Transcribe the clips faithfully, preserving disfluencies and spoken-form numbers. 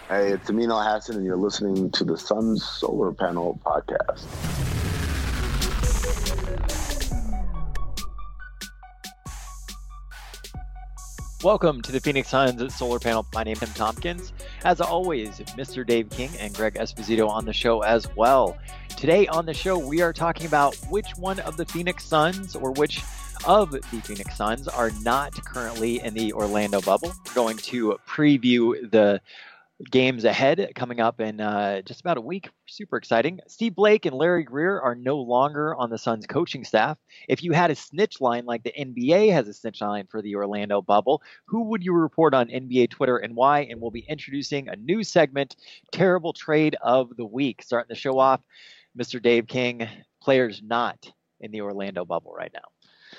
Hey, it's Amin Al Hassan, and you're listening to the Suns Solar Panel Podcast. Welcome to the Phoenix Suns Solar Panel. My name is Tim Tompkins. As always, Mister Dave King and Greg Esposito on the show as well. Today on the show, we are talking about which one of the Phoenix Suns or which of the Phoenix Suns are not currently in the Orlando bubble. We're going to preview the games ahead coming up in uh, just about a week. Super exciting. Steve Blake and Larry Greer are no longer on the Suns coaching staff. If you had a snitch line like the N B A has a snitch line for the Orlando bubble, who would you report on N B A Twitter and why? And we'll be introducing a new segment, Terrible Trade of the Week. Starting the show off, Mister Dave King, players not in the Orlando bubble right now.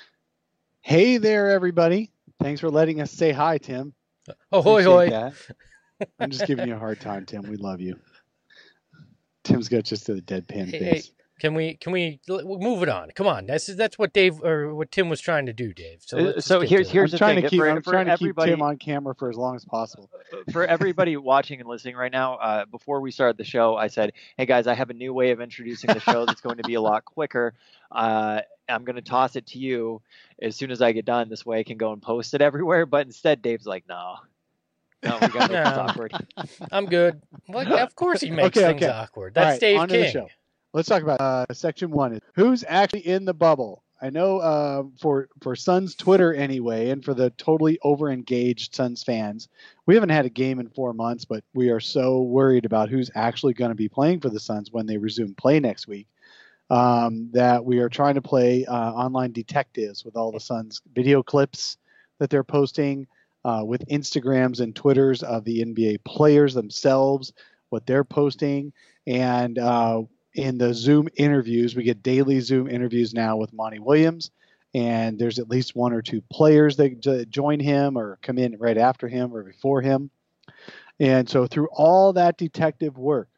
Hey there, everybody. Thanks for letting us say hi, Tim. Oh, hoy, hoy. That. I'm just giving you a hard time, Tim. We love you. Tim's got just a deadpan Hey, face. hey, can we can we move it on? Come on, that's that's what Dave or what Tim was trying to do, Dave. So, let's so get here's to it. here's I'm the trying thing. to keep, for, I'm for trying to keep everybody, Tim on camera for as long as possible. For everybody watching and listening right now, uh, before we started the show, I said, "Hey guys, I have a new way of introducing the show that's going to be a lot quicker. Uh, I'm going to toss it to you as soon as I get done. This way I can go and post it everywhere." But instead, Dave's like, "No, no, we got to make this No. awkward." I'm good. Well, of course he makes Okay, things okay. awkward. All That's right, Dave on to the King. show. Let's talk about uh, section one. Who's actually in the bubble? I know uh, for for Suns Twitter anyway, and for the totally over-engaged Suns fans, we haven't had a game in four months, but we are so worried about who's actually going to be playing for the Suns when they resume play next week um, that we are trying to play uh, online detectives with all the Suns video clips that they're posting, uh, with Instagrams and Twitters of the N B A players themselves, what they're posting, and uh, in the Zoom interviews, we get daily Zoom interviews now with Monty Williams, and there's at least one or two players that j- join him or come in right after him or before him. And so through all that detective work,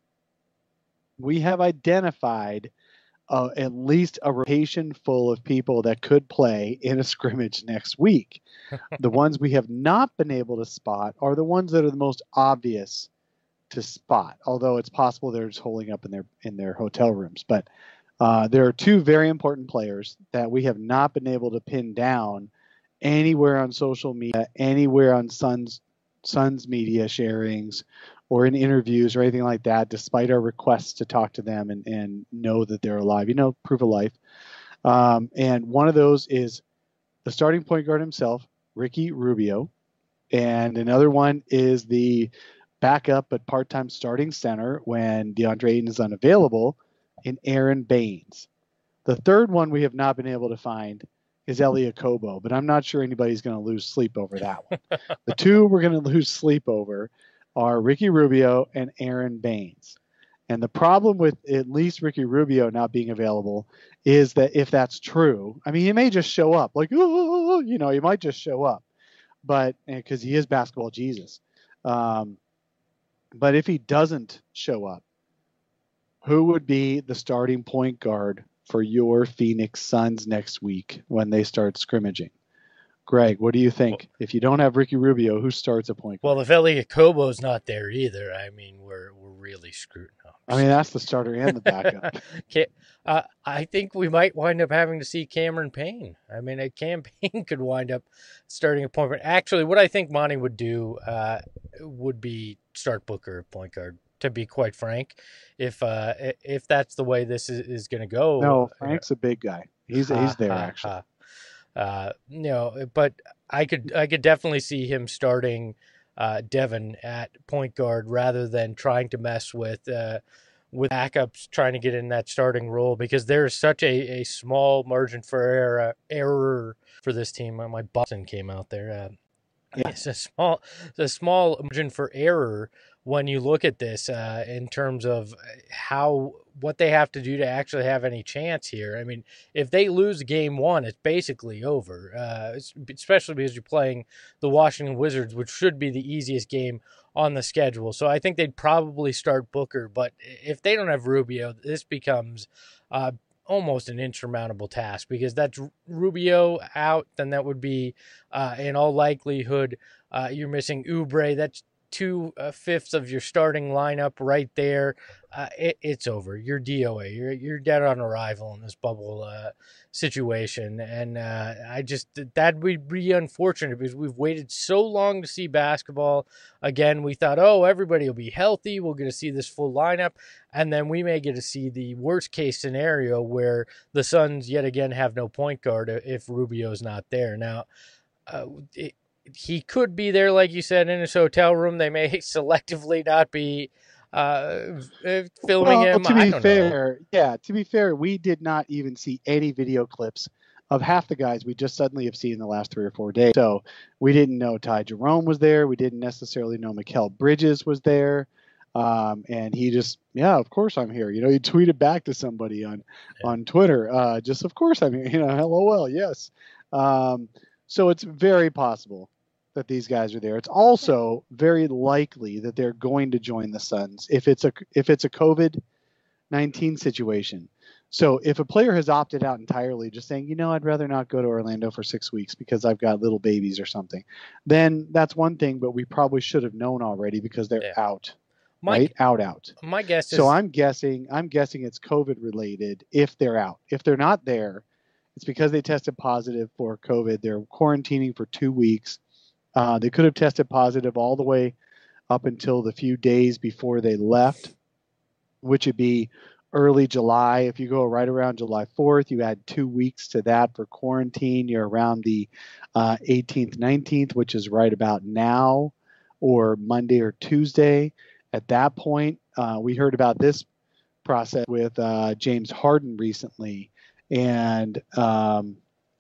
we have identified uh, at least a rotation full of people that could play in a scrimmage next week. The ones we have not been able to spot are the ones that are the most obvious to spot, although it's possible they're just holding up in their in their hotel rooms. But uh, there are two very important players that we have not been able to pin down anywhere on social media, anywhere on Suns Suns media sharings or in interviews or anything like that, despite our requests to talk to them and, and know that they're alive, you know, proof of life. Um, and one of those is the starting point guard himself, Ricky Rubio. And another one is the backup but part-time starting center when DeAndre Ayton is unavailable in Aaron Baines. The third one we have not been able to find is Elie Okobo, but I'm not sure anybody's going to lose sleep over that one. The two we're going to lose sleep over are Ricky Rubio and Aaron Baines. And the problem with at least Ricky Rubio not being available is that if that's true, I mean, he may just show up like, oh, you know, he might just show up, but because he is basketball Jesus. Um, But if he doesn't show up, who would be the starting point guard for your Phoenix Suns next week when they start scrimmaging? Greg, what do you think? Well, if you don't have Ricky Rubio, who starts a point guard? Well, if Elie Okobo's not there either, I mean, we're we're really screwed up. I mean, that's the starter and the backup. Okay, uh, I think we might wind up having to see Cameron Payne. I mean, a Cam Payne could wind up starting a point guard. Actually, what I think Monty would do uh, would be start Booker at point guard, to be quite frank, if uh, if that's the way this is, is going to go. No, Frank's a big guy. He's he's there, actually. Uh, you know, but I could I could definitely see him starting uh, Devin at point guard rather than trying to mess with uh, with backups trying to get in that starting role, because there's such a, a small margin for error, error for this team. My Boston came out there. Uh, yeah. It's a small it's a small margin for error when you look at this uh, in terms of how what they have to do to actually have any chance here. I mean, if they lose game one, it's basically over, uh, especially because you're playing the Washington Wizards, which should be the easiest game on the schedule. So I think they'd probably start Booker, but if they don't have Rubio, this becomes uh, almost an insurmountable task, because that's Rubio out, then that would be, uh, in all likelihood, uh, you're missing Oubre. That's two uh, fifths of your starting lineup right there, uh, it, it's over. You're D O A. You're you're dead on arrival in this bubble uh, situation, and uh, I just that would be unfortunate because we've waited so long to see basketball. Again, we thought, oh, everybody will be healthy. We'll get to see this full lineup, and then we may get to see the worst case scenario where the Suns yet again have no point guard if Rubio's not there. Now, uh, it, he could be there, like you said, in his hotel room. They may selectively not be uh, filming well, him. To be I don't fair, know. yeah, to be fair, we did not even see any video clips of half the guys we just suddenly have seen in the last three or four days. So we didn't know Ty Jerome was there. We didn't necessarily know Mikal Bridges was there. Um, and he just, yeah, of course I'm here. You know, he tweeted back to somebody on, yeah. on Twitter, uh, just, of course I'm here, you know, LOL. Yes. Um, so it's very possible that these guys are there. It's also very likely that they're going to join the Suns if it's a, if it's a COVID nineteen situation. So if a player has opted out entirely, just saying, you know, I'd rather not go to Orlando for six weeks because I've got little babies or something, then that's one thing, but we probably should have known already because they're yeah. out. My, right? Out, out. My guess is... So I'm guessing, I'm guessing it's COVID related if they're out. If they're not there, it's because they tested positive for COVID. They're quarantining for two weeks. Uh, they could have tested positive all the way up until the few days before they left, which would be early July. If you go right around July fourth, you add two weeks to that for quarantine. You're around the uh, eighteenth, nineteenth, which is right about now, or Monday or Tuesday. At that point, uh, we heard about this process with uh, James Harden recently, and um,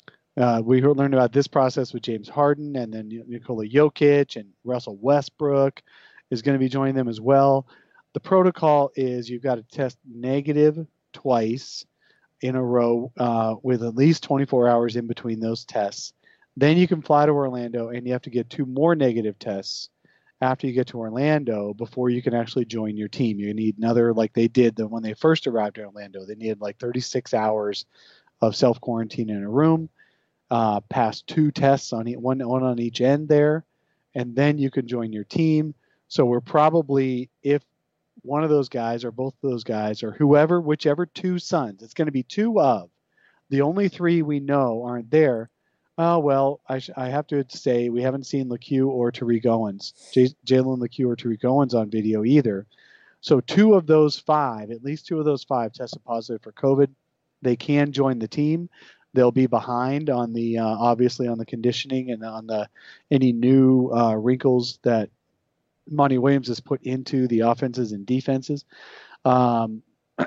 uh, we heard, learned about this process with James Harden, and then Nikola Jokic and Russell Westbrook is going to be joining them as well. The protocol is you've got to test negative twice in a row uh, with at least twenty-four hours in between those tests. Then you can fly to Orlando, and you have to get two more negative tests after you get to Orlando before you can actually join your team. You need another, like they did the, when they first arrived in Orlando, they needed like thirty-six hours of self-quarantine in a room, uh, pass two tests on one, one on each end there, and then you can join your team. So we're probably, if one of those guys or both of those guys or whoever, whichever two Suns, it's going to be two of. The only three we know aren't there. Oh, well, I, sh- I have to say we haven't seen LeCue or Tariq Owens, J- Jalen LeCue or Tariq Owens on video either. So two of those five, at least two of those five tested positive for COVID. They can join the team. They'll be behind on the, uh, obviously on the conditioning and on the any new uh, wrinkles that Monty Williams has put into the offenses and defenses. Um,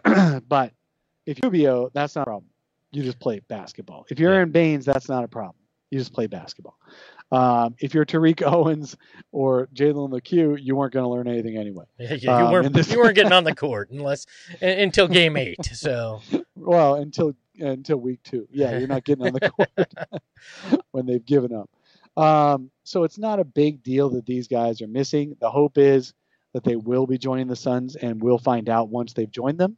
but if you're Rubio, that's not a problem. You just play basketball. If you're yeah. Aaron Baines, that's not a problem. You just play basketball. Um, if you're Tariq Owens or Jalen LeCue, you weren't going to learn anything anyway. Yeah, yeah, you, um, weren't, this... you weren't getting on the court unless until game eight. So well, until until week two. Yeah, you're not getting on the court when they've given up. Um, so it's not a big deal that these guys are missing. The hope is that they will be joining the Suns, and we'll find out once they've joined them.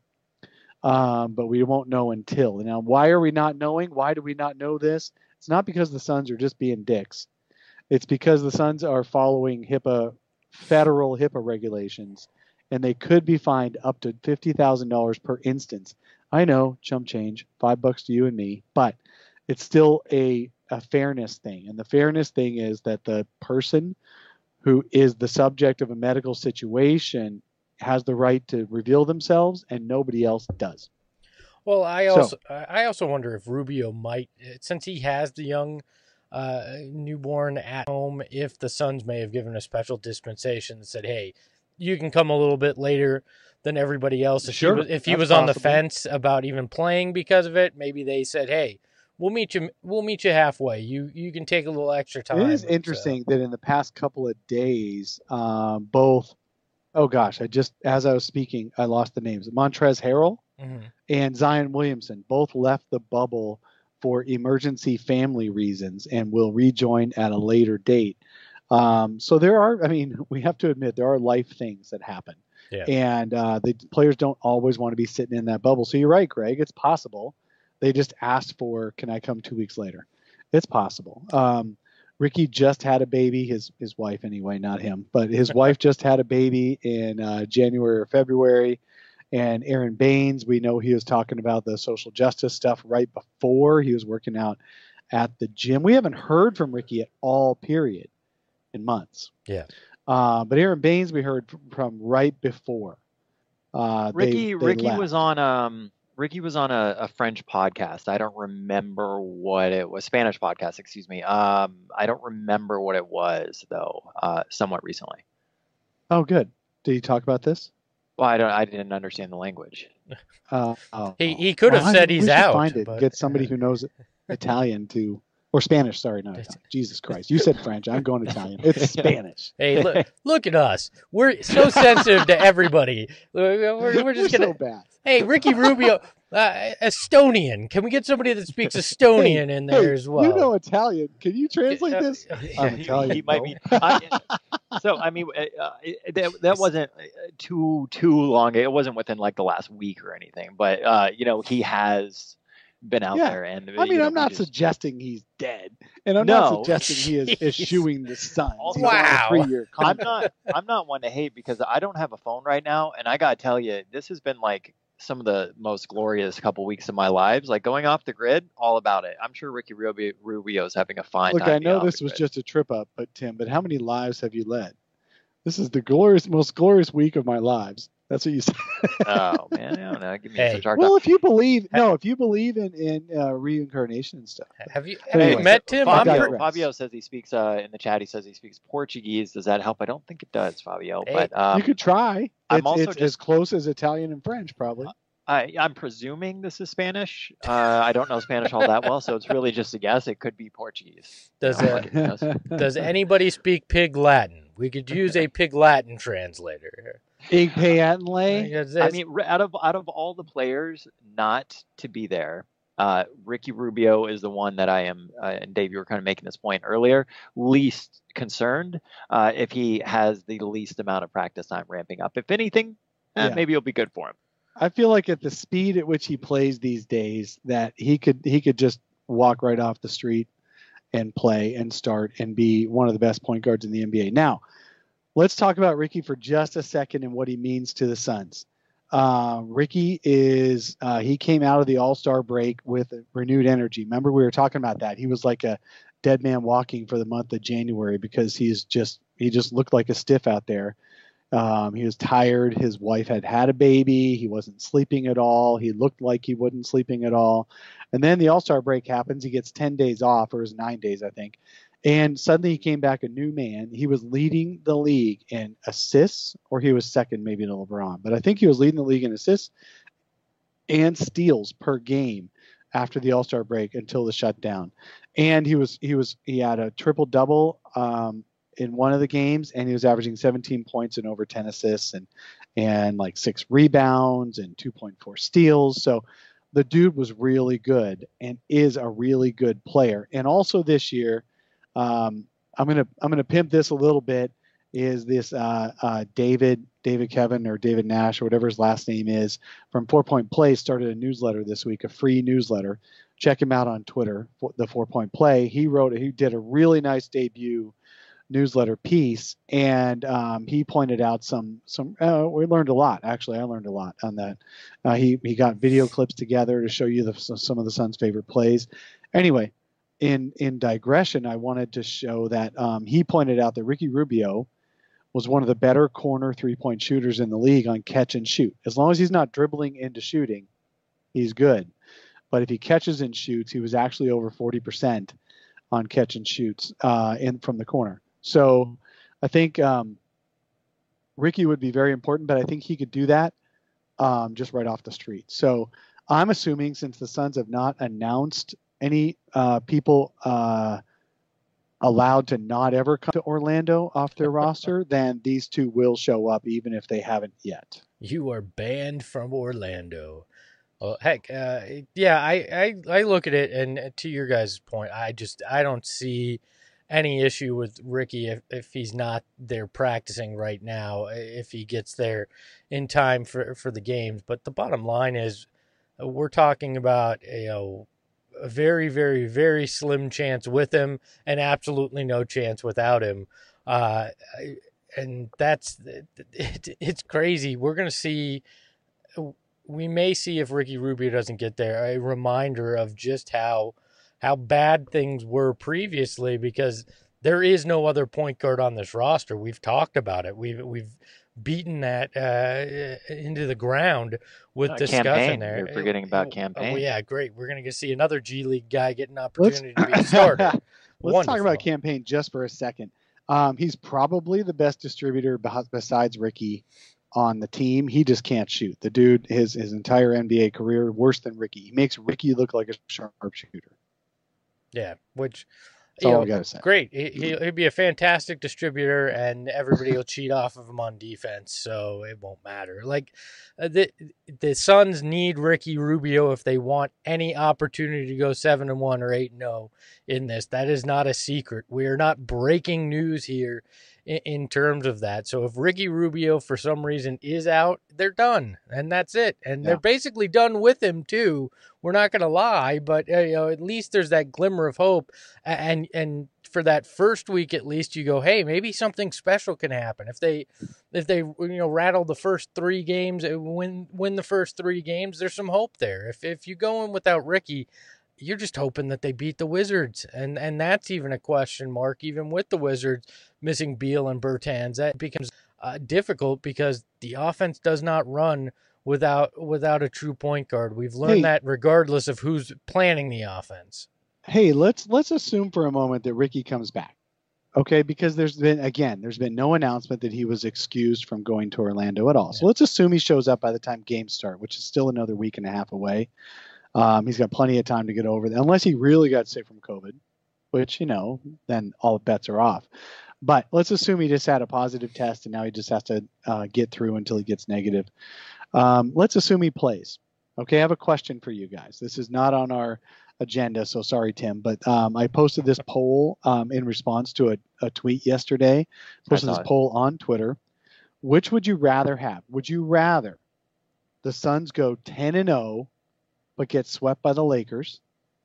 Um, but we won't know until. Now, why are we not knowing? Why do we not know this? It's not because the Suns are just being dicks. It's because the Suns are following HIPAA, federal HIPAA regulations, and they could be fined up to fifty thousand dollars per instance. I know, chump change, five bucks to you and me, but it's still a a fairness thing. And the fairness thing is that the person who is the subject of a medical situation has the right to reveal themselves and nobody else does. Well, I also, so, I also wonder if Rubio might, since he has the young uh, newborn at home, if the Suns may have given a special dispensation that said, hey, you can come a little bit later than everybody else. If sure, he was, if he was on the fence about even playing because of it, maybe they said, hey, We'll meet you. We'll meet you halfway. You you can take a little extra time. It is interesting so. that in the past couple of days, um, both. Oh gosh, I just as I was speaking, I lost the names. Montrezl Harrell mm-hmm. and Zion Williamson both left the bubble for emergency family reasons and will rejoin at a later date. Um, so there are. I mean, we have to admit there are life things that happen, yeah. and uh, the players don't always want to be sitting in that bubble. So you're right, Greg. It's possible. They just asked for, can I come two weeks later? It's possible. Um, Ricky just had a baby. His his wife anyway, not him, but his wife just had a baby in uh, January or February. And Aaron Baines, we know he was talking about the social justice stuff right before he was working out at the gym. We haven't heard from Ricky at all, period, in months. Yeah. Uh, but Aaron Baines, we heard from right before. Uh, Ricky they, they Ricky left. was on um Ricky was on a, a French podcast. I don't remember what it was. Spanish podcast, excuse me. Um, I don't remember what it was though. Uh, somewhat recently. Oh, good. Did he talk about this? Well, I don't. I didn't understand the language. Uh, oh, He he could have well, said I, he's we should out. Find it. But, Get somebody who knows Italian to, or Spanish. Sorry, not Italian. Jesus Christ! You said French. I'm going Italian. It's Spanish. Hey, look, look at us. We're so sensitive to everybody. We're, we're, we're just We're gonna. so bad. Hey, Ricky Rubio, uh, Estonian. Can we get somebody that speaks Estonian hey, in there hey, as well? You know Italian. Can you translate Uh, this? I'm Italian. he might no. be. I, so I mean, uh, it, that, that wasn't too too long. It wasn't within like the last week or anything. But uh, you know, he has been out Yeah. there, and I mean, you know, I'm not we just, suggesting he's dead, and I'm No. not suggesting he is eschewing the Suns. He's on a Wow. three-year I'm contract. not. I'm not one to hate because I don't have a phone right now, and I gotta tell you, this has been like some of the most glorious couple weeks of my lives. Like going off the grid, all about it. I'm sure Ricky Rubio, Rubio's having a fine Look, time. I know being this off the was grid. just a trip up, but Tim, but how many lives have you led? This is the glorious, most glorious week of my lives. That's what you said. Oh man, I don't know. Give me Hey. such hard Well, time. if you believe, no, if you believe in in uh, reincarnation and stuff. Have you, have Anyway, you met Tim? I'm Fabio- Fabio, pre- Fabio says he speaks uh, in the chat. He says he speaks Portuguese. Does that help? I don't think it does, Fabio. Hey, but um, you could try. I'm It's, also it's just- as close as Italian and French, probably. I, I'm presuming this is Spanish. Uh, I don't know Spanish all that well, so it's really just a guess. It could be Portuguese. Does You know, uh, like, who knows? Does anybody speak Pig Latin? We could use a Pig Latin translator. Ig Payatanle. Because I it's- mean, r- out of out of all the players not to be there, uh, Ricky Rubio is the one that I am. Uh, and Dave, you were kind of making this point earlier. Least concerned uh, if he has the least amount of practice time ramping up. If anything, eh, Yeah. maybe it'll be good for him. I feel like at the speed at which he plays these days, that he could he could just walk right off the street and play and start and be one of the best point guards in the N B A. Now, let's talk about Ricky for just a second and what he means to the Suns. Uh, Ricky is uh, he came out of the All-Star break with renewed energy. Remember, we were talking about that. He was like a dead man walking for the month of January because he's just he just looked like a stiff out there. Um, he was tired. His wife had had a baby. He wasn't sleeping at all. He looked like he wasn't sleeping at all. And then the All-Star break happens. He gets ten days off, or it was nine days, I think. And suddenly he came back a new man. He was leading the league in assists, or he was second maybe to LeBron. But I think he was leading the league in assists and steals per game after the All-Star break until the shutdown. And he was he was he had a triple-double um, in one of the games, and he was averaging seventeen points and over ten assists and and like six rebounds and two point four steals. So the dude was really good and is a really good player. And also this year, um, I'm gonna I'm gonna pimp this a little bit. Is this uh, uh, David David Kevin or David Nash or whatever his last name is from Four Point Play started a newsletter this week, a free newsletter. Check him out on Twitter, the Four Point Play. He wrote he did a really nice debut newsletter piece, and um, he pointed out some some uh, we learned a lot. Actually, I learned a lot on that. Uh, he he got video clips together to show you the, some of the Suns' favorite plays. Anyway, in in digression, I wanted to show that um, he pointed out that Ricky Rubio was one of the better corner three-point shooters in the league on catch and shoot. As long as he's not dribbling into shooting, he's good. But if he catches and shoots, he was actually over forty percent on catch and shoots uh, in from the corner. So I think um, Ricky would be very important, but I think he could do that um, just right off the street. So I'm assuming, since the Suns have not announced any uh, people uh, allowed to not ever come to Orlando off their roster, then these two will show up even if they haven't yet. You are banned from Orlando. Well, heck, uh, yeah, I, I, I look at it, and to your guys' point, I just I don't see any issue with Ricky if, if he's not there practicing right now, if he gets there in time for, for the games. But the bottom line is, we're talking about, you know, a very, very, very slim chance with him and absolutely no chance without him. Uh, and that's it, it's crazy. We're going to see, we may see if Ricky Rubio doesn't get there, a reminder of just how how bad things were previously, because there is no other point guard on this roster. We've talked about it. We've we've beaten that uh, into the ground with uh, discussion campaign. there. You're forgetting about oh, campaign. Oh, yeah, great. We're going to see another G League guy get an opportunity Let's, to be a starter. Let's Wonderful. talk about campaign just for a second. Um, he's probably the best distributor besides Ricky on the team. He just can't shoot. The dude, his his entire N B A career, worse than Ricky. He makes Ricky look like a sharpshooter. Yeah, which That's all know, we gotta say. Great. He, he'd be a fantastic distributor, and everybody will cheat off of him on defense, so it won't matter. Like uh, the the Suns need Ricky Rubio if they want any opportunity to go seven and one or eight and zero in this. That is not a secret. We are not breaking news here in, in terms of that. So if Ricky Rubio for some reason is out, they're done, and that's it. And yeah. they're basically done with him too. We're not going to lie, but uh, you know, at least there's that glimmer of hope. And and for that first week, at least you go, hey, maybe something special can happen. If they if they you know rattle the first three games, win win the first three games, there's some hope there. If if you go in without Ricky, you're just hoping that they beat the Wizards, and and that's even a question mark. Even with the Wizards missing Beal and Bertans, that becomes uh, difficult because the offense does not run without without a true point guard. We've learned hey, that regardless of who's planning the offense. Hey, let's let's assume for a moment that Ricky comes back. Okay, because there's been again, there's been no announcement that he was excused from going to Orlando at all. Yeah. So let's assume he shows up by the time games start, which is still another week and a half away. Um, he's got plenty of time to get over it, unless he really got sick from COVID, which, you know, then all bets are off. But let's assume he just had a positive test and now he just has to uh, get through until he gets negative. Um, let's assume he plays. Okay, I have a question for you guys. This is not on our agenda, so sorry, Tim, but um, I posted this poll um, in response to a, a tweet yesterday. Posted this poll on Twitter. Which would you rather have? Would you rather the Suns go ten and oh but get swept by the Lakers,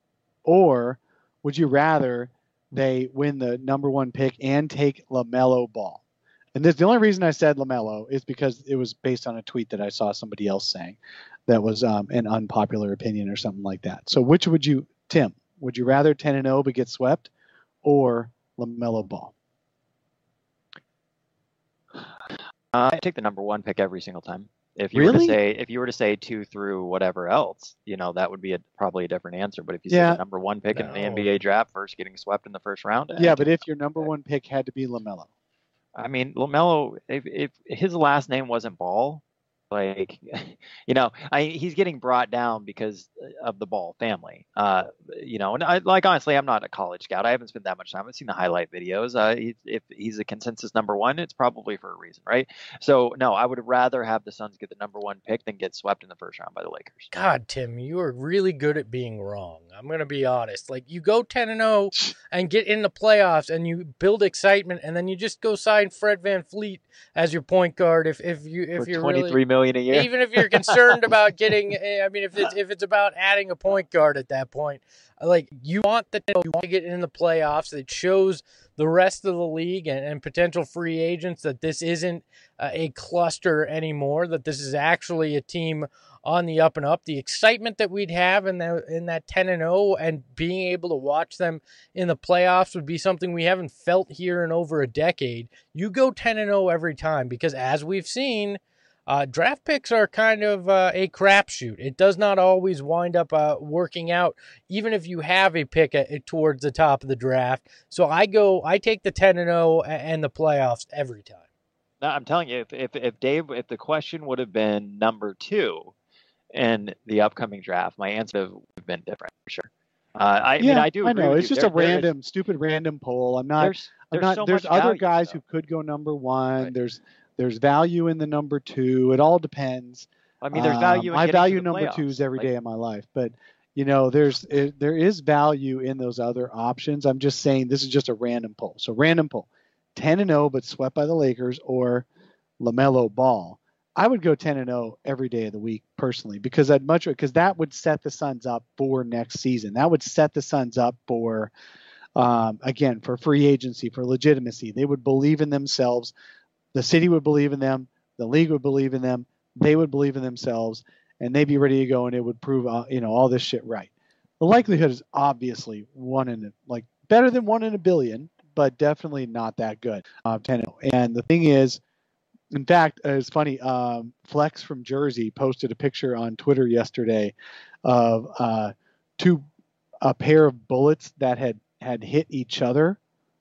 or would you rather they win the number one pick and take LaMelo Ball? And this, the only reason I said LaMelo is because it was based on a tweet that I saw somebody else saying that was um, an unpopular opinion or something like that. So which would you, Tim, would you rather ten and oh but get swept, or LaMelo Ball? Uh, I take the number one pick every single time. If you really? were to say, if you were to say two through whatever else, you know, that would be a, probably a different answer. But if you yeah. say the number one pick no. in the N B A draft, first getting swept in the first round. Yeah, but if your number one pick had to be LaMelo. I mean, LaMelo, if, if his last name wasn't Ball, like, you know, I, he's getting brought down because of the Ball family. Uh, you know, and I, like, honestly, I'm not a college scout. I haven't spent that much time. I've seen the highlight videos. Uh, he, if he's a consensus number one, it's probably for a reason, right? So, no, I would rather have the Suns get the number one pick than get swept in the first round by the Lakers. God, Tim, you are really good at being wrong. I'm going to be honest. Like, you go ten and oh and get in the playoffs and you build excitement, and then you just go sign Fred VanVleet as your point guard if if you if for you're twenty-three really, million a year. Even if you're concerned about getting, I mean, if it's if it's about adding a point guard at that point, like, you want the you want to get in the playoffs. It shows the rest of the league and, and potential free agents that this isn't uh, a cluster anymore. That this is actually a team on the up and up. The excitement that we'd have in that in that ten and oh and being able to watch them in the playoffs would be something we haven't felt here in over a decade. You go ten and oh every time, because as we've seen, Uh, draft picks are kind of uh, a crapshoot. It does not always wind up uh, working out, even if you have a pick at, towards the top of the draft. So I go, I take the ten and oh and the playoffs every time. No, I'm telling you, if, if if Dave, if the question would have been number two in the upcoming draft, my answer would have been different for sure. Uh, I yeah, mean, I do. I agree know with it's you. just there, a random, is, stupid, random poll. I'm not. There's, there's, I'm not, so there's much other value, guys though. who could go number one. Right. There's There's value in the number two. It all depends. I mean, there's value. Um, in I value to the number playoffs. twos every like, day of my life, but you know, there's it, there is value in those other options. I'm just saying this is just a random poll. So random poll, ten and oh but swept by the Lakers, or LaMelo Ball. I would go ten and oh every day of the week personally, because I'd much because that would set the Suns up for next season. That would set the Suns up for um, again for free agency, for legitimacy. They would believe in themselves. The city would believe in them. The league would believe in them. They would believe in themselves, and they'd be ready to go, and it would prove uh, you know all this shit right. The likelihood is obviously one in like better than one in a billion, but definitely not that good. Uh, ten and oh. And the thing is. In fact, it's funny. Um, Flex from Jersey posted a picture on Twitter yesterday of uh, two a pair of bullets that had, had hit each other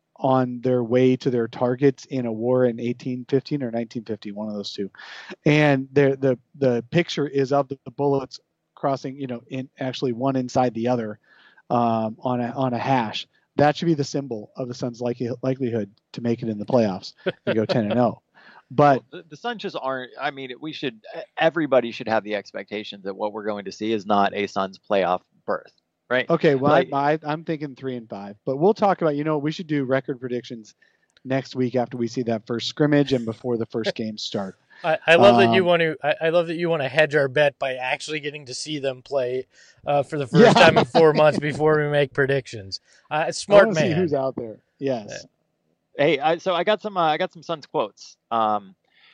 on their way to their targets in a war in eighteen fifteen or nineteen fifty, one of those two. And the the picture is of the, the bullets crossing, you know, in actually one inside the other um, on a on a hash. That should be the symbol of the Suns' likely, likelihood to make it in the playoffs and go ten and oh. But well, the, the Suns just aren't. I mean, we should. Everybody should have the expectation that what we're going to see is not a Suns playoff berth, right? Okay, well, like, I, I, I'm thinking three and five, but we'll talk about. You know, we should do record predictions next week after we see that first scrimmage and before the first games start. I, I love um, that you want to. I, I love that you want to hedge our bet by actually getting to see them play uh, for the first yeah. time in four months before we make predictions. Uh, smart I man. See who's out there? Yes. Yeah. Hey, I, so I got some. Uh, I got some Suns quotes. Um,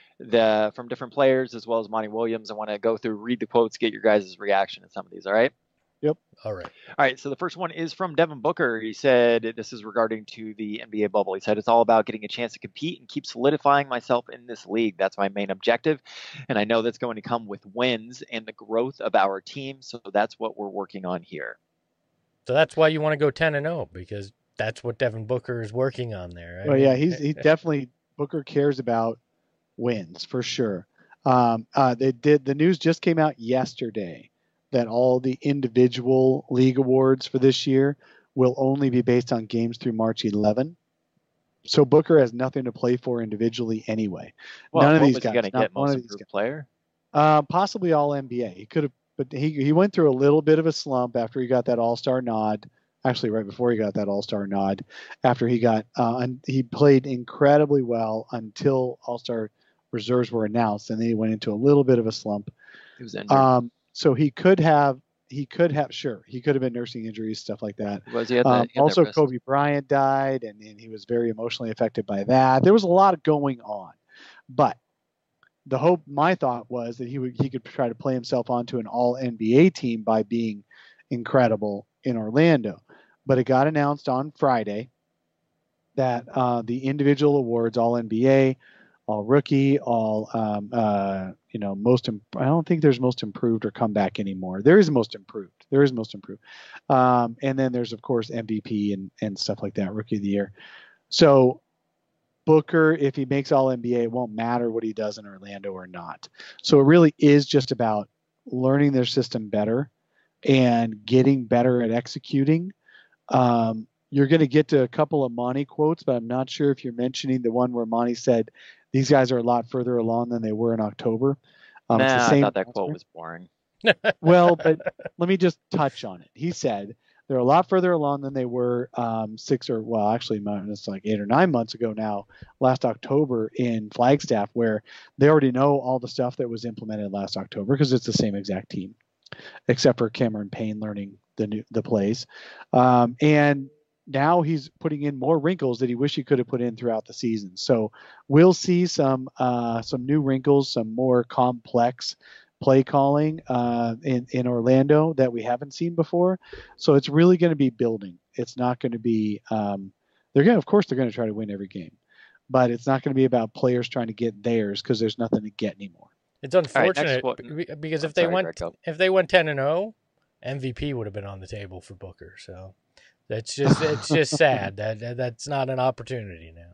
the from different players as well as Monty Williams. I want to go through, read the quotes, get your guys' reaction to some of these. All right. Yep. All right. All right. So the first one is from Devin Booker. He said, this is regarding to the N B A bubble. He said, it's all about getting a chance to compete and keep solidifying myself in this league. That's my main objective. And I know that's going to come with wins and the growth of our team. So that's what we're working on here. So that's why you want to go ten and oh, because that's what Devin Booker is working on there. Right? Well, yeah, he's he definitely Booker cares about wins for sure. Um, uh, they did. The news just came out yesterday that all the individual league awards for this year will only be based on games through March eleventh. So Booker has nothing to play for individually anyway. Well, None of what these was guys. He gonna not get one most of these improved guys. player. Uh, possibly all N B A. He could have, but he he went through a little bit of a slump after he got that All Star nod. Actually, right before he got that All Star nod, after he got uh, and he played incredibly well until All Star reserves were announced, and then he went into a little bit of a slump. He was injured. Um, so he could have, he could have, sure, he could have been nursing injuries, stuff like that. Was he? Had Um, that, he had also, that wrist. Kobe Bryant died, and, and he was very emotionally affected by that. There was a lot going on, but the hope, my thought was that he would, he could try to play himself onto an All N B A team by being incredible in Orlando. But it got announced on Friday that uh, the individual awards, All N B A, All Rookie, All um, uh, you know, most. Imp- I don't think there's Most Improved or Comeback anymore. There is Most Improved. There is Most Improved, um, and then there's of course M V P and and stuff like that, Rookie of the Year. So Booker, if he makes All N B A, it won't matter what he does in Orlando or not. So it really is just about learning their system better and getting better at executing. Um, you're going to get to a couple of Monty quotes, but I'm not sure if you're mentioning the one where Monty said these guys are a lot further along than they were in October. Um, nah, it's the same I thought that answer. quote was boring. Well, but let me just touch on it. He said they're a lot further along than they were um, six or, well, actually, it's like eight or nine months ago now, last October in Flagstaff, where they already know all the stuff that was implemented last October because it's the same exact team, except for Cameron Payne learning the new the plays. Um, and now he's putting in more wrinkles that he wish he could have put in throughout the season. So we'll see some uh, some new wrinkles, some more complex play calling uh, in, in Orlando that we haven't seen before. So it's really going to be building. It's not going to be, um, they're going to, of course, they're going to try to win every game, but it's not going to be about players trying to get theirs because there's nothing to get anymore. It's unfortunate right, next because I'm if they sorry, went, Greg, if they went ten and oh, M V P would have been on the table for Booker. So that's just, it's just sad that, that that's not an opportunity now.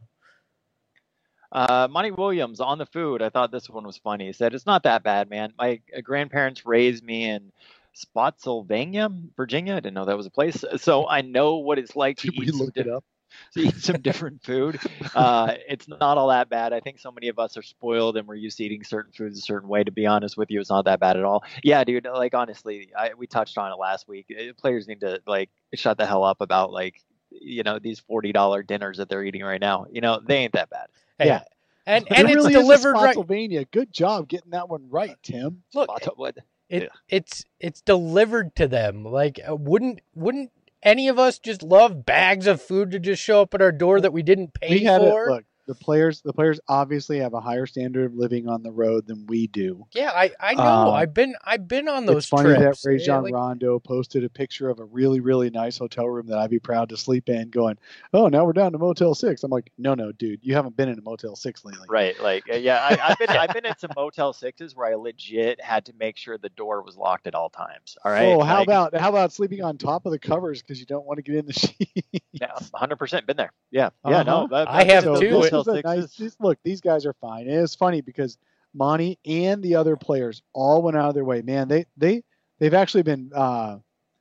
Uh, Monty Williams on the food. I thought this one was funny. He said, it's not that bad, man. My grandparents raised me in Spotsylvania, Virginia. I didn't know that was a place. So I know what it's like to Did we eat, look some, it up? to eat some different food. Uh, it's not all that bad. I think so many of us are spoiled and we're used to eating certain foods a certain way. To be honest with you, it's not that bad at all. Yeah, dude. Like, honestly, I, we touched on it last week. Players need to, like, shut the hell up about, like, you know, these forty dollars dinners that they're eating right now. You know, they ain't that bad. Hey, Yeah. and It and it's really delivered is a right. Spotsylvania. Good job getting that one right, Tim. Look, Spot- what? it Yeah. it's it's delivered to them. Like uh, wouldn't wouldn't any of us just love bags of food to just show up at our door that we didn't pay We had for? it. Look, the players. The players obviously have a higher standard of living on the road than we do. Yeah, I, I know. Uh, I've been I've been on those It's funny trips. that Ray Yeah, John like- Rondo posted a picture of a really, really nice hotel room that I'd be proud to sleep in, going, "Oh, now we're down to Motel Six." I'm like, "No, no, dude, you haven't been in a Motel Six lately." Right, like uh, yeah, I, I've been I've been in some Motel Sixes where I legit had to make sure the door was locked at all times. All right. Oh, how Like, about how about sleeping on top of the covers because you don't want to get in the sheet? yeah, one hundred percent been there. Yeah, yeah, no, Uh-huh. that- I that's have those too. Motel This is a nice, Sixes. this- look, these guys are fine. And it's funny because Monty and the other players all went out of their way. Man, they they they've actually been uh,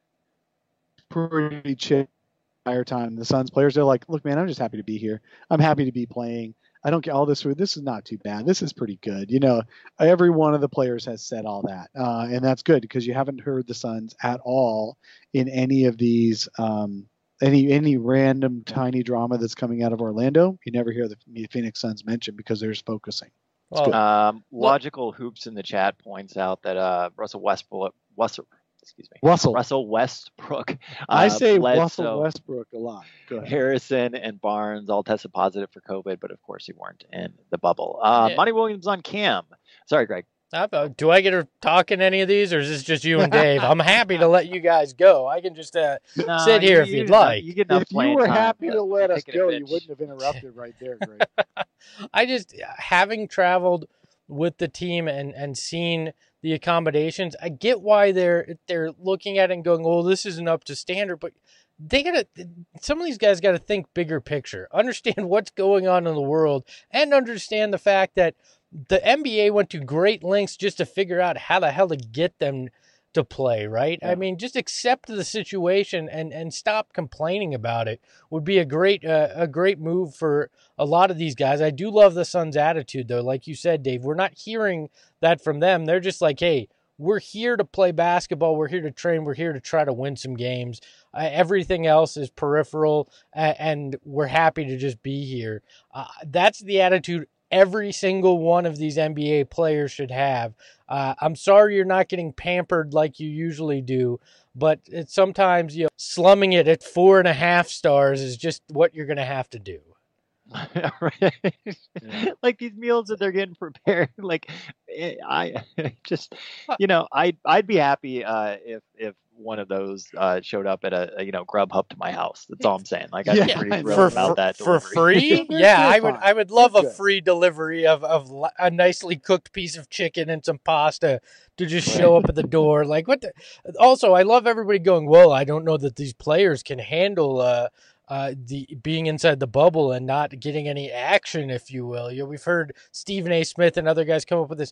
pretty chill the entire time. The Suns players, they're like, "Look, man, I'm just happy to be here. I'm happy to be playing. I don't get all this food. This is not too bad. This is pretty good." You know, every one of the players has said all that, uh, and that's good because you haven't heard the Suns at all in any of these. Um, any any random tiny drama that's coming out of Orlando, you never hear the Phoenix Suns mentioned because they're just focusing. well, Um, Logical Hoops in the chat points out that uh, Russell Westbrook, West, excuse me, Russell. Russell Westbrook. I uh, say Bledsoe, Russell Westbrook a lot. Go ahead. Harrison and Barnes all tested positive for COVID, but of course they weren't in the bubble. Uh, Yeah. Monty Williams on Cam. Sorry, Greg. I- do I get to talk in any of these, or is this just you and Dave? I'm happy to let you guys go. I can just uh, No, Sit here you- if you you'd get enough- like. You get enough If you playing were time, happy but to let you're us taking a go, you bitch. wouldn't have interrupted right there, Greg. I just having traveled with the team and and seen the accommodations, I get why they're they're looking at it and going, "Well, this isn't up to standard," but they gotta. Some of these guys got to think bigger picture, understand what's going on in the world, and understand the fact that the N B A went to great lengths just to figure out how the hell to get them to play, right? Yeah. I mean, just accept the situation and, and stop complaining about it would be a great uh, a great move for a lot of these guys. I do love the Suns' attitude, though. Like you said, Dave, we're not hearing that from them. They're just like, hey, we're here to play basketball. We're here to train. We're here to try to win some games. Uh, everything else is peripheral, uh, and we're happy to just be here. Uh, that's the attitude every single one of these N B A players should have. Uh, I'm sorry you're not getting pampered like you usually do, but it's sometimes, you know, slumming it at four and a half stars is just what you're going to have to do. Right. Yeah. Like these meals that they're getting prepared, like eh, I just, you know, I'd I'd be happy uh, if if one of those uh, showed up at a, a you know Grubhub to my house. That's all I'm saying. Like I'd Yeah, be pretty I thrilled know. For, about for, that for delivery. free? They're- Yeah, they're I would fine. I would love They're a good. free delivery of, of li- a nicely cooked piece of chicken and some pasta to just Right. show up at the door. Like what the, also, I love everybody going, well, I don't know that these players can handle uh uh, the being inside the bubble and not getting any action, if you will. You know, we've heard Stephen A. Smith and other guys come up with this.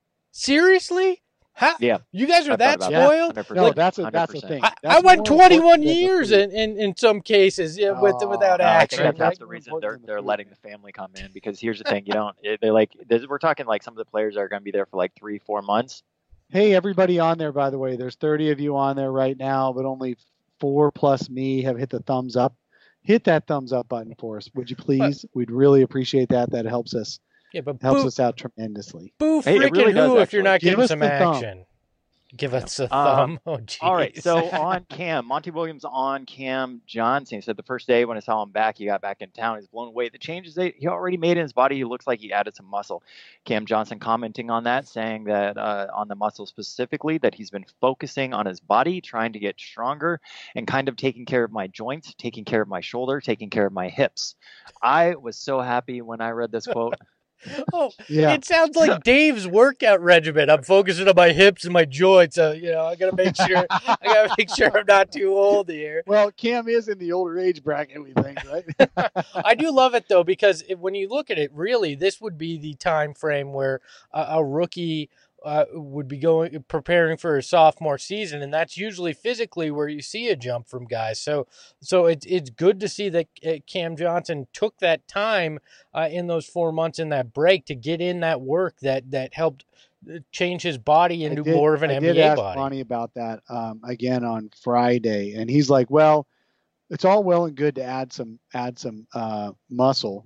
Seriously? How? Yeah. You guys are I thought that about that. spoiled? one hundred percent. No, that's a, that's the one hundred percent. thing. I, I That's went more twenty-one important than years the- in, in, in some cases yeah, with Oh, without no, I action. think that, that's right? the More reason important they're than the they're food. letting the family come in, because here's the thing, you don't they like this, we're talking like some of the players are going to be there for like three four months. Hey, everybody on there, by the way, there's thirty of you on there right now, but only four plus me have hit the thumbs up. Hit that thumbs up button for us, would you please? We'd really appreciate that. That helps us Yeah, but helps boo, us out tremendously. boo Hey, it freaking really does, who if you're actually. not Give getting us some the thumb. action. Give us a Um, thumb. Oh, geez. All right, so on Cam, Monty Williams on Cam Johnson. He said the first day when I saw him back, he got back in town. He's blown away. The changes that he already made in his body, he looks like he added some muscle. Cam Johnson commenting on that, saying that uh, on the muscle specifically, that he's been focusing on his body, trying to get stronger, and kind of taking care of my joints, taking care of my shoulder, taking care of my hips. I was so happy when I read this quote. Oh, Yeah. it sounds like Dave's workout regimen. I'm focusing on my hips and my joints. So, you know, I gotta make sure I gotta make sure I'm not too old here. Well, Cam is in the older age bracket, we think, right? I do love it though, because it, when you look at it, really, this would be the time frame where a, a rookie uh, would be going preparing for a sophomore season, and that's usually physically where you see a jump from guys. So, so it's it's good to see that uh, Cam Johnson took that time uh, in those four months in that break to get in that work that that helped change his body into I did- more of an I N did B A ask body. Monty about that um, again on Friday, and he's like, "Well, it's all well and good to add some add some uh, muscle,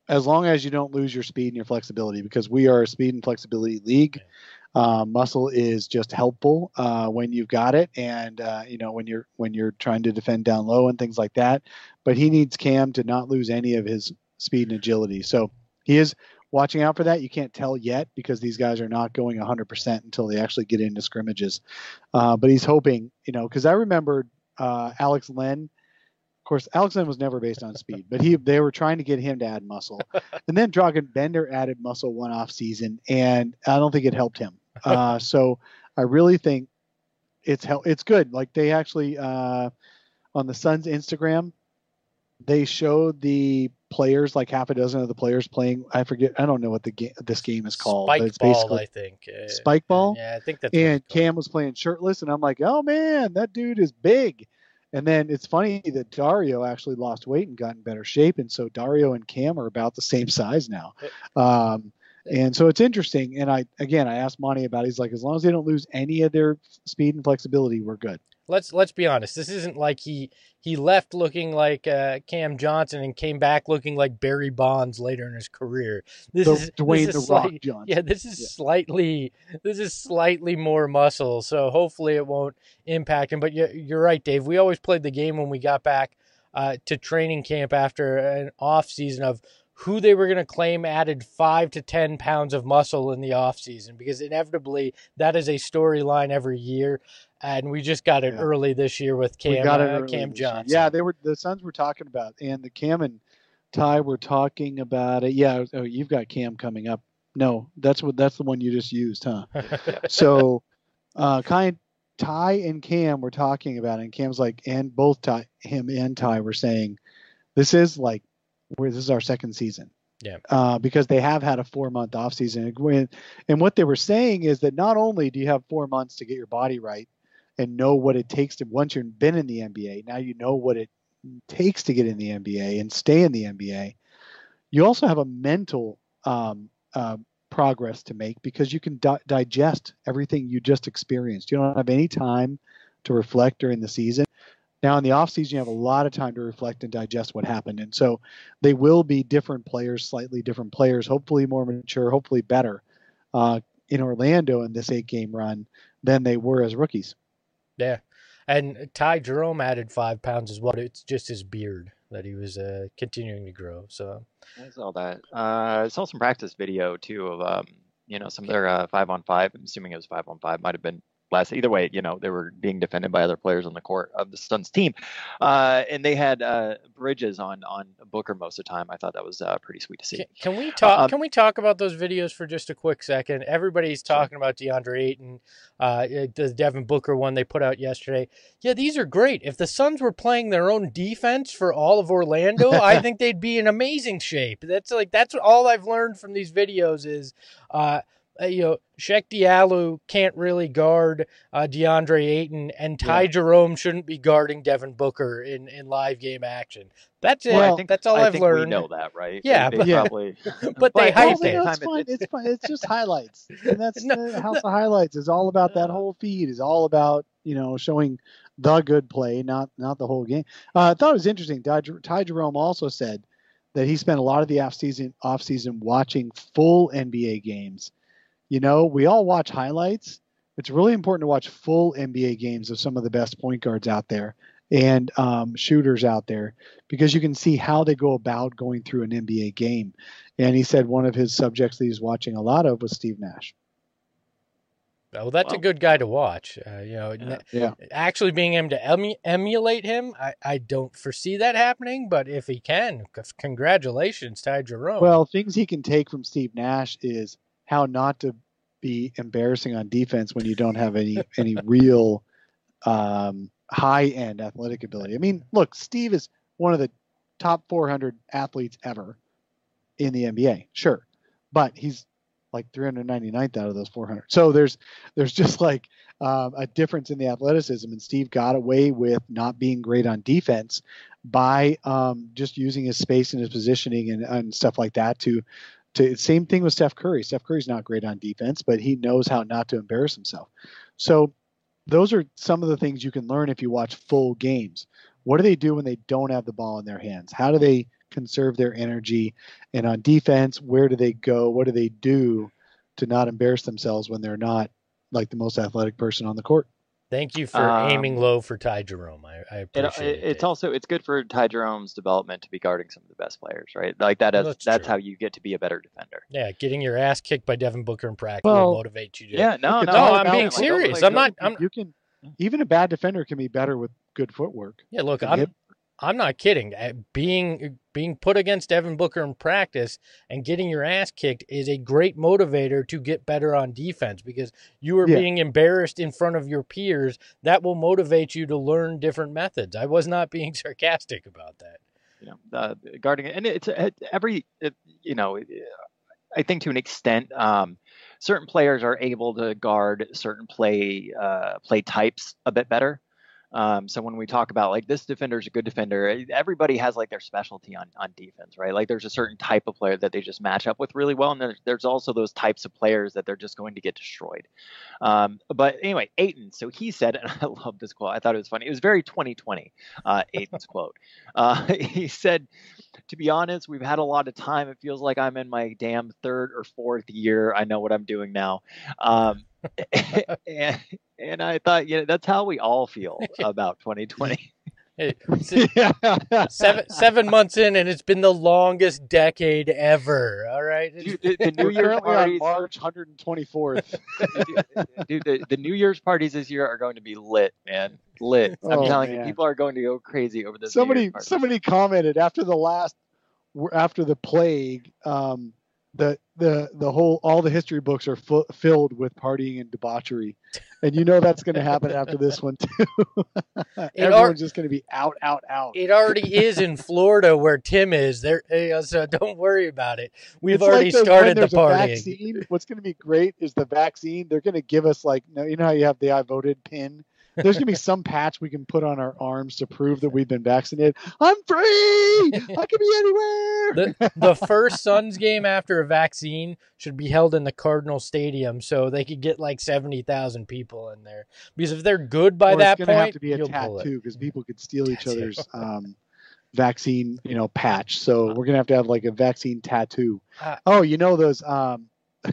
as long as you don't lose your speed and your flexibility, because we are a speed and flexibility league. Uh, muscle is just helpful uh, when you've got it, and uh, you know when you're when you're trying to defend down low and things like that. But he needs Cam to not lose any of his speed and agility. So he is watching out for that. You can't tell yet because these guys are not going one hundred percent until they actually get into scrimmages. Uh, but he's hoping, you know, because I remember uh, Alex Len. Of course, Alex Len was never based on speed, but he they were trying to get him to add muscle. And then Dragan Bender added muscle one off season, and I don't think it helped him. Uh, so I really think it's hel- it's good. Like they actually uh, on the Suns Instagram, they showed the players, like half a dozen of the players playing. I forget. I don't know what the game this game is called. Spike but it's ball, basically I think. Uh, spike ball. Yeah, I think that's. And Cam was playing shirtless, and I'm like, oh man, that dude is big. And then it's funny that Dario actually lost weight and got in better shape, and so Dario and Cam are about the same size now. Um, and so it's interesting. And I again, I asked Monty about it. He's like, as long as they don't lose any of their speed and flexibility, we're good. Let's let's be honest. This isn't like he he left looking like uh, Cam Johnson and came back looking like Barry Bonds later in his career. This the, is Dwayne this the is Rock slight, Johnson. Yeah, this is Yeah. slightly this is slightly more muscle. So hopefully it won't impact him. But you, you're right, Dave. We always played the game when we got back uh, to training camp after an off season of who they were going to claim added five to ten pounds of muscle in the off season, because inevitably that is a storyline every year. And we just got it Yeah. early this year with Cam, we got it uh, early Cam this year. Johnson. Yeah, they were the Suns were talking about, and the Cam and Ty were talking about it. Yeah, oh, you've got Cam coming up. No, that's what that's the one you just used, huh? So, uh, kind Ty and Cam were talking about it, and Cam's like, and both Ty, him and Ty were saying, this is like, where this is our second season. Yeah. Uh, because they have had a four month off season, and what they were saying is that not only do you have four months to get your body right and know what it takes to, once you've been in the N B A, now you know what it takes to get in the N B A and stay in the N B A. You also have a mental um, uh, progress to make, because you can di- digest everything you just experienced. You don't have any time to reflect during the season. Now in the off season, you have a lot of time to reflect and digest what happened. And so they will be different players, slightly different players, hopefully more mature, hopefully better uh, in Orlando in this eight game run than they were as rookies. Yeah. And Ty Jerome added five pounds as well. It's just his beard that he was uh, continuing to grow. So I saw that. Uh, I saw some practice video too of um, you know, some of their uh, five on five. I'm assuming it was five on five. Might have been last. Either way, you know, they were being defended by other players on the court of the Suns team, uh, and they had uh, Bridges on on Booker most of the time. I thought that was uh, pretty sweet to see. Can, can we talk? Um, can we talk about those videos for just a quick second? Everybody's talking about DeAndre Ayton, uh, the Devin Booker one they put out yesterday. Yeah, these are great. If the Suns were playing their own defense for all of Orlando, I think they'd be in amazing shape. That's like that's all I've learned from these videos is. Uh, Uh, you know, Sheck Diallo can't really guard uh, DeAndre Ayton, and Ty Yeah. Jerome shouldn't be guarding Devin Booker in, in live game action. That's it. Well, I think that's all I I've think learned. We know that, right? Yeah, they, but- they Yeah. probably. But they at the hype Well, same you know, time, it's fine. it- It's fine. It's just highlights, and that's No, the House of Highlights is all about. That whole feed is all about, you know, showing the good play, not not the whole game. Uh, I thought it was interesting. Ty, Ty Jerome also said that he spent a lot of the off season off season watching full N B A games. You know, we all watch highlights. It's really important to watch full N B A games of some of the best point guards out there and um, shooters out there, because you can see how they go about going through an N B A game. And he said one of his subjects that he's watching a lot of was Steve Nash. Well, that's a Well, good guy to watch. Uh, you know, Yeah. Yeah. actually being able to emu- emulate him, I, I don't foresee that happening. But if he can, c- congratulations, Ty Jerome. Well, things he can take from Steve Nash is how not to be embarrassing on defense when you don't have any any real um, high end athletic ability. I mean, look, Steve is one of the top four hundred athletes ever in the N B A, sure, but he's like three hundred ninety-ninth out of those four hundred. So there's there's just like um, a difference in the athleticism, and Steve got away with not being great on defense by um, just using his space and his positioning and, and stuff like that to to same thing with Steph Curry. Steph Curry's not great on defense, but he knows how not to embarrass himself. So those are some of the things you can learn if you watch full games. What do they do when they don't have the ball in their hands? How do they conserve their energy? And on defense, where do they go? What do they do to not embarrass themselves when they're not like the most athletic person on the court? Thank you for Um, aiming low for Ty Jerome. I, I It, appreciate it. it's Dave. also it's good for Ty Jerome's development to be guarding some of the best players, right? Like that is Well, that's that's true. how you get to be a better defender. Yeah, getting your ass kicked by Devin Booker in practice Well, will motivate you to. Yeah, no, Look, no, it's all I'm about, being like, serious. go I'm play not. I'm, You can even a bad defender can be better with good footwork. yeah, look, And I'm hip- I'm not kidding. Uh, Being being put against Devin Booker in practice and getting your ass kicked is a great motivator to get better on defense because you are Yeah. being embarrassed in front of your peers. That will motivate you to learn different methods. I was not being sarcastic about that. You know, uh, guarding it, and it's it, every it, you know. I think to an extent, um, certain players are able to guard certain play uh, play types a bit better. Um, so when we talk about like this defender is a good defender, everybody has like their specialty on, on defense, right? Like there's a certain type of player that they just match up with really well, and there's, there's also those types of players that they're just going to get destroyed. Um, but anyway, Ayton. So he said, and I love this quote. I thought it was funny. It was very twenty twenty. Uh, Ayton's quote. Uh, he said, "To be honest, we've had a lot of time. It feels like I'm in my damn third or fourth year. I know what I'm doing now." Um, and, and I thought, you know, that's how we all feel about twenty twenty. Hey, seven seven months in, and it's been the longest decade ever. All right, Dude, the, the New We're Year's currently on parties, March one hundred twenty-fourth. dude, the, the New Year's parties this year are going to be lit, man, lit. I'm Oh, telling you, man. people are going to go crazy over this. New somebody Year's party. somebody commented after the last after the plague, um, the the the whole all the history books are fu- filled with partying and debauchery, and you know that's going to happen after this one too. Everyone's just going to be out, out, out. It already is in Florida where Tim is. There, you know, so don't worry about it. We've It's already like those- started when the there's a partying. vaccine, what's going to be great is the vaccine. They're going to give us like, you know how you have the I voted pin? There's going to be some patch we can put on our arms to prove that we've been vaccinated. I'm free. I can be anywhere. The, the first Suns game after a vaccine should be held in the Cardinal Stadium so they could get like seventy thousand people in there. Because if they're good by Or that it's going to have point, to be a you'll pull it. tattoo because people could steal each Tattoo. other's um, vaccine, you know, patch. So we're going to have to have like a vaccine tattoo. Uh, Oh, you know those. Um,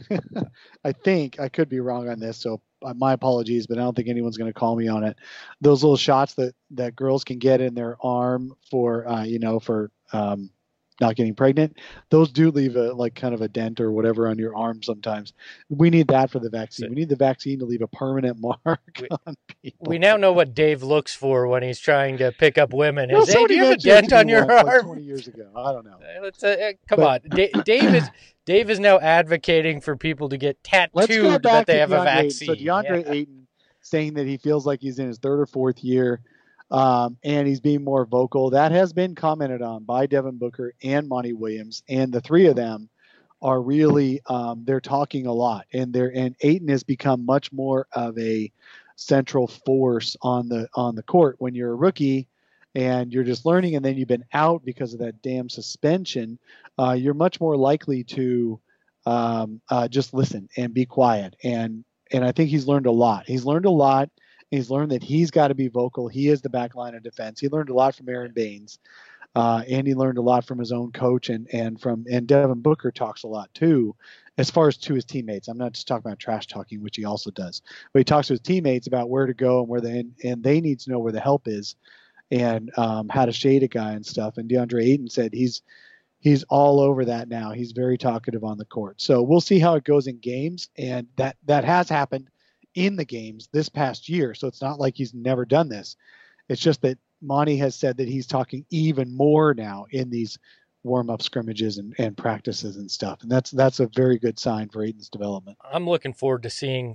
I think I could be wrong on this, so uh, my apologies, but I don't think anyone's going to call me on it. Those little shots that that girls can get in their arm for, uh, you know, for um, not getting pregnant, those do leave a like kind of a dent or whatever on your arm sometimes. We need that for the vaccine. So- we need the vaccine to leave a permanent mark We- on people. We now know what Dave looks for when he's trying to pick up women. Well, Is, hey, somebody do you have a mentioned it dent to me on your once, like arm? twenty years ago. I don't know. Uh, Let's, uh, uh, come But- on. Da- Dave is Dave is now advocating for people to get Let's go tattooed back that they to have a DeAndre Ayton. vaccine. So DeAndre Yeah. Ayton saying that he feels like he's in his third or fourth year, um, and he's being more vocal. That has been commented on by Devin Booker and Monty Williams, and the three of them are really um, they're talking a lot, and they're and Ayton has become much more of a central force on the on the court when you're a rookie. And you're just learning, and then you've been out because of that damn suspension. Uh, you're much more likely to um, uh, just listen and be quiet. And and I think he's learned a lot. He's learned a lot. He's learned that he's got to be vocal. He is the back line of defense. He learned a lot from Aaron Baines, uh, and he learned a lot from his own coach. And and from and Devin Booker talks a lot too, as far as to his teammates. I'm not just talking about trash talking, which he also does, but he talks to his teammates about where to go and where they and, and they need to know where the help is, and um, how to shade a guy and stuff. And DeAndre Ayton said he's he's all over that now. He's very talkative on the court. So we'll see how it goes in games, and that that has happened in the games this past year. So it's not like he's never done this. It's just that Monty has said that he's talking even more now in these warm-up scrimmages and, and practices and stuff. And that's that's a very good sign for Ayton's development. I'm looking forward to seeing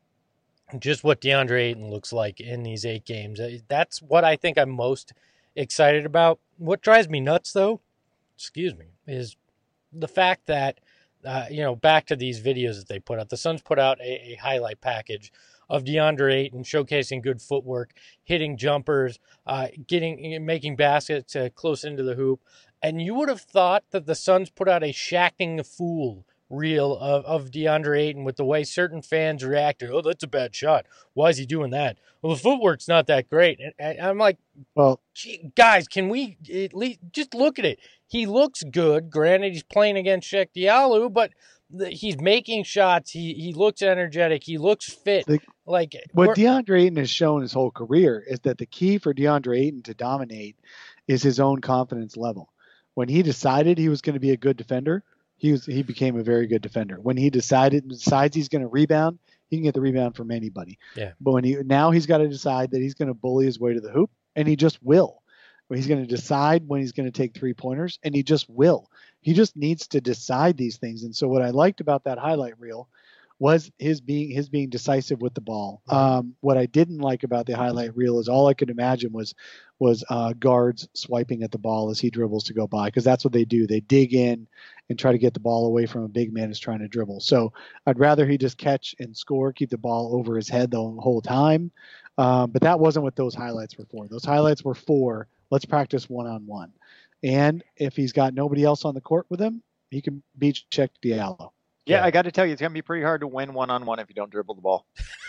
just what DeAndre Ayton looks like in these eight games. That's what I think I'm most excited about. What drives me nuts, though, excuse me, is the fact that, uh, you know, back to these videos that they put out. The Suns put out a, a highlight package of DeAndre Ayton showcasing good footwork, hitting jumpers, uh, getting making baskets uh, close into the hoop. And you would have thought that the Suns put out a shacking fool reel of, of DeAndre Ayton with the way certain fans reacted. Oh, that's a bad shot. Why is he doing that? Well, the footwork's not that great. And, and I'm like, Well, gee, guys, can we at least just look at it? he looks good. Granted, he's playing against Sheck Diallo, but the, he's making shots. He he looks energetic. He looks fit. The, like what DeAndre Ayton has shown his whole career is that the key for DeAndre Ayton to dominate is his own confidence level. When he decided he was going to be a good defender, he was he became a very good defender. When he decided decides he's going to rebound, he can get the rebound from anybody. Yeah. But when he now he's got to decide that he's going to bully his way to the hoop, and he just will. He's going to decide when he's going to take three pointers, and he just will. He just needs to decide these things. And so what I liked about that highlight reel was his being his being decisive with the ball. Um, what I didn't like about the highlight reel is all I could imagine was was uh, guards swiping at the ball as he dribbles to go by, because that's what they do. They dig in and try to get the ball away from a big man who's trying to dribble. So I'd rather he just catch and score, keep the ball over his head the whole time. Um, but that wasn't what those highlights were for. Those highlights were for let's practice one-on-one. And if he's got nobody else on the court with him, he can beat Sheck Diallo. Yeah, yeah, I got to tell you, it's going to be pretty hard to win one-on-one if you don't dribble the ball.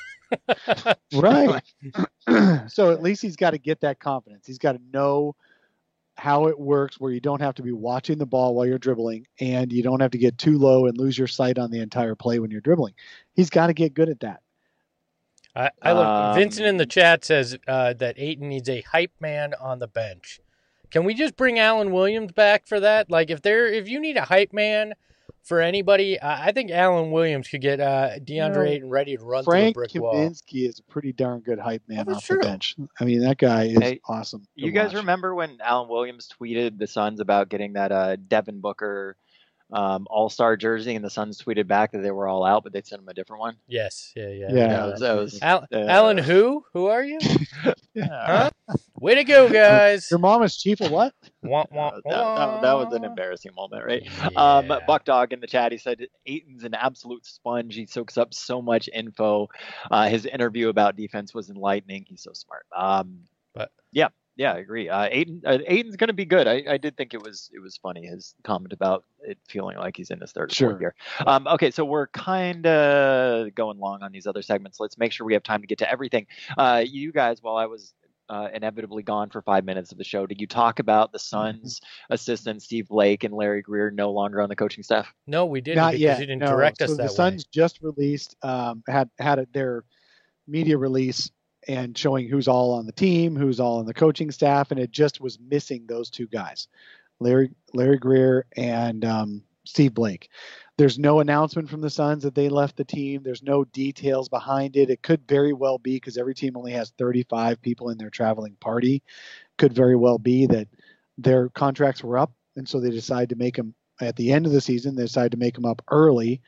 Right. So at least he's got to get that confidence. He's got to know how it works where you don't have to be watching the ball while you're dribbling, and you don't have to get too low and lose your sight on the entire play when you're dribbling. He's got to get good at that. I, I look, Um, Vincent in the chat says uh, that Ayton needs a hype man on the bench. Can we just bring Alan Williams back for that? Like, if there, if you need a hype man for anybody, uh, I think Alan Williams could get uh, DeAndre You know, Ayton ready to run Frank through a brick wall. Kaminsky is a pretty darn good hype man Oh, off that's true. the bench. I mean, that guy is Hey, awesome. to You guys watch. remember when Alan Williams tweeted the Suns about getting that uh, Devin Booker um, All-Star jersey, and the Suns tweeted back that they were all out, but they sent him a different one? Yes, yeah, yeah. Yeah. That was, that was, Al- uh, Alan, who? Who are you? yeah. Huh? Way to go, guys! Your mom is chief of what? Wah, wah, that, that, that was an wah. embarrassing moment, right? Um, Yeah. Buck Dog in the chat, he said Ayton's an absolute sponge. He soaks up so much info. Uh, his interview about defense was enlightening. He's so smart. Um, But yeah, yeah, I agree. Uh, Ayton, uh, Ayton's going to be good. I, I did think it was it was funny, his comment about it feeling like he's in his third or Sure. fourth year. Um, okay, so we're kind of going long on these other segments. Let's make sure we have time to get to everything. Uh, you guys, while I was uh, inevitably gone for five minutes of the show, did you talk about the Suns assistant Steve Blake and Larry Greer no longer on the coaching staff? no, we didn't Not because yet. you didn't no. direct so us that the Suns just released um, had had a, their media release and showing who's all on the team, who's all on the coaching staff, and it just was missing those two guys, Larry Larry Greer and um, Steve Blake. There's no announcement from the Suns that they left the team. There's no details behind it. It could very well be, because every team only has thirty-five people in their traveling party, could very well be that their contracts were up, and so they decided to make them at the end of the season. They decided to make them up early,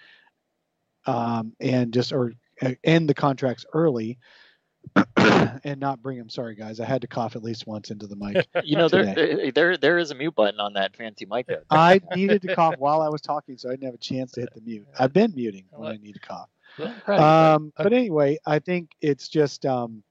um, and just or uh, end the contracts early. And not bring them. Sorry, guys. I had to cough at least once into the mic. You know, there, today. there there is a mute button on that fancy mic there. I needed to cough while I was talking, so I didn't have a chance to hit the mute. I've been muting when I need to cough. Um, but anyway, I think it's just um,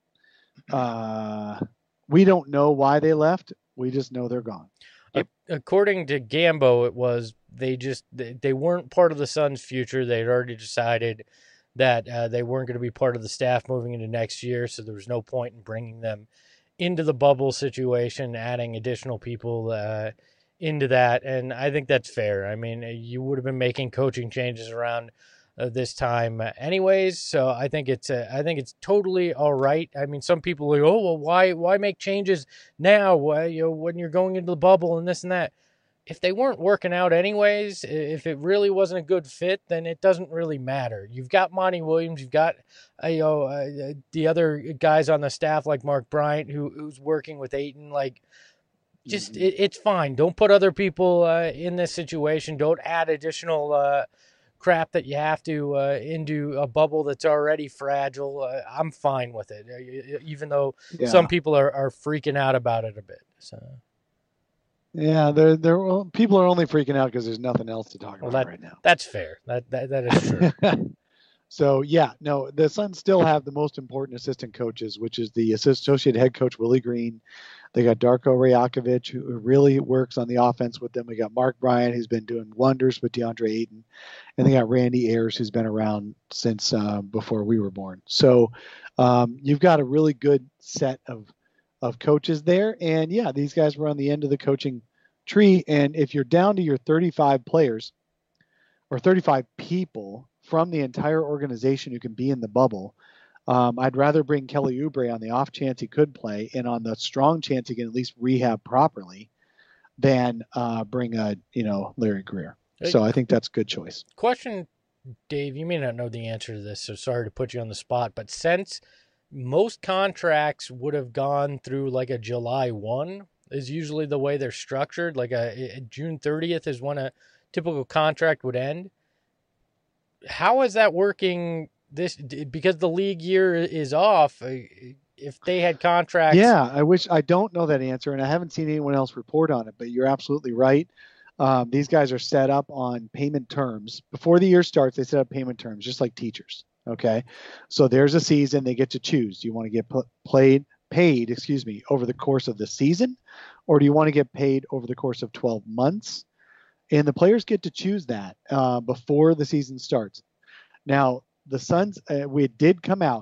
uh, we don't know why they left. We just know they're gone. According to Gambo, it was they just they, they weren't part of the Suns' future. They had already decided that uh, they weren't going to be part of the staff moving into next year, so there was no point in bringing them into the bubble situation, adding additional people uh, into that, and I think that's fair. I mean, you would have been making coaching changes around uh, this time uh, anyways, so I think it's uh, I think it's totally all right. I mean, some people are like, oh, well, why why make changes now? Why, you know, when you're going into the bubble and this and that. If they weren't working out anyways, if it really wasn't a good fit, then it doesn't really matter. You've got Monty Williams, you've got uh, you know uh, the other guys on the staff like Mark Bryant, who who's working with Ayton. Like, just mm-hmm. it, it's fine. Don't put other people uh, in this situation. Don't add additional uh, crap that you have to uh, into a bubble that's already fragile. Uh, I'm fine with it, even though yeah. some people are, are freaking out about it a bit. So. Yeah, they're, they're, well, people are only freaking out because there's nothing else to talk well, about that, right now. That's fair. That that, that is true. So, yeah, no, the Suns still have the most important assistant coaches, which is the associate head coach, Willie Green. They got Darko Rajakovic, who really works on the offense with them. We got Mark Bryant, who's been doing wonders with DeAndre Ayton. And they got Randy Ayers, who's been around since uh, before we were born. So um, you've got a really good set of of coaches there. And yeah, these guys were on the end of the coaching tree. And if you're down to your thirty-five players or thirty-five people from the entire organization who can be in the bubble, um, I'd rather bring Kelly Oubre on the off chance he could play and on the strong chance he can at least rehab properly than uh, bring a, you know, Larry Greer. Hey, so I think that's a good choice. Question, Dave, you may not know the answer to this, so sorry to put you on the spot, but since most contracts would have gone through like a July first is usually the way they're structured, like a, a June thirtieth is when a typical contract would end. How is that working this, because the league year is off? If they had contracts. Yeah, I wish, I don't know that answer, and I haven't seen anyone else report on it, but you're absolutely right. Um, these guys are set up on payment terms. Before the year starts, they set up payment terms, just like teachers. Okay. So there's a season, they get to choose. Do you want to get pl- played, paid, excuse me, over the course of the season, or do you want to get paid over the course of twelve months? And the players get to choose that uh, before the season starts. Now, the Suns, uh, we did come out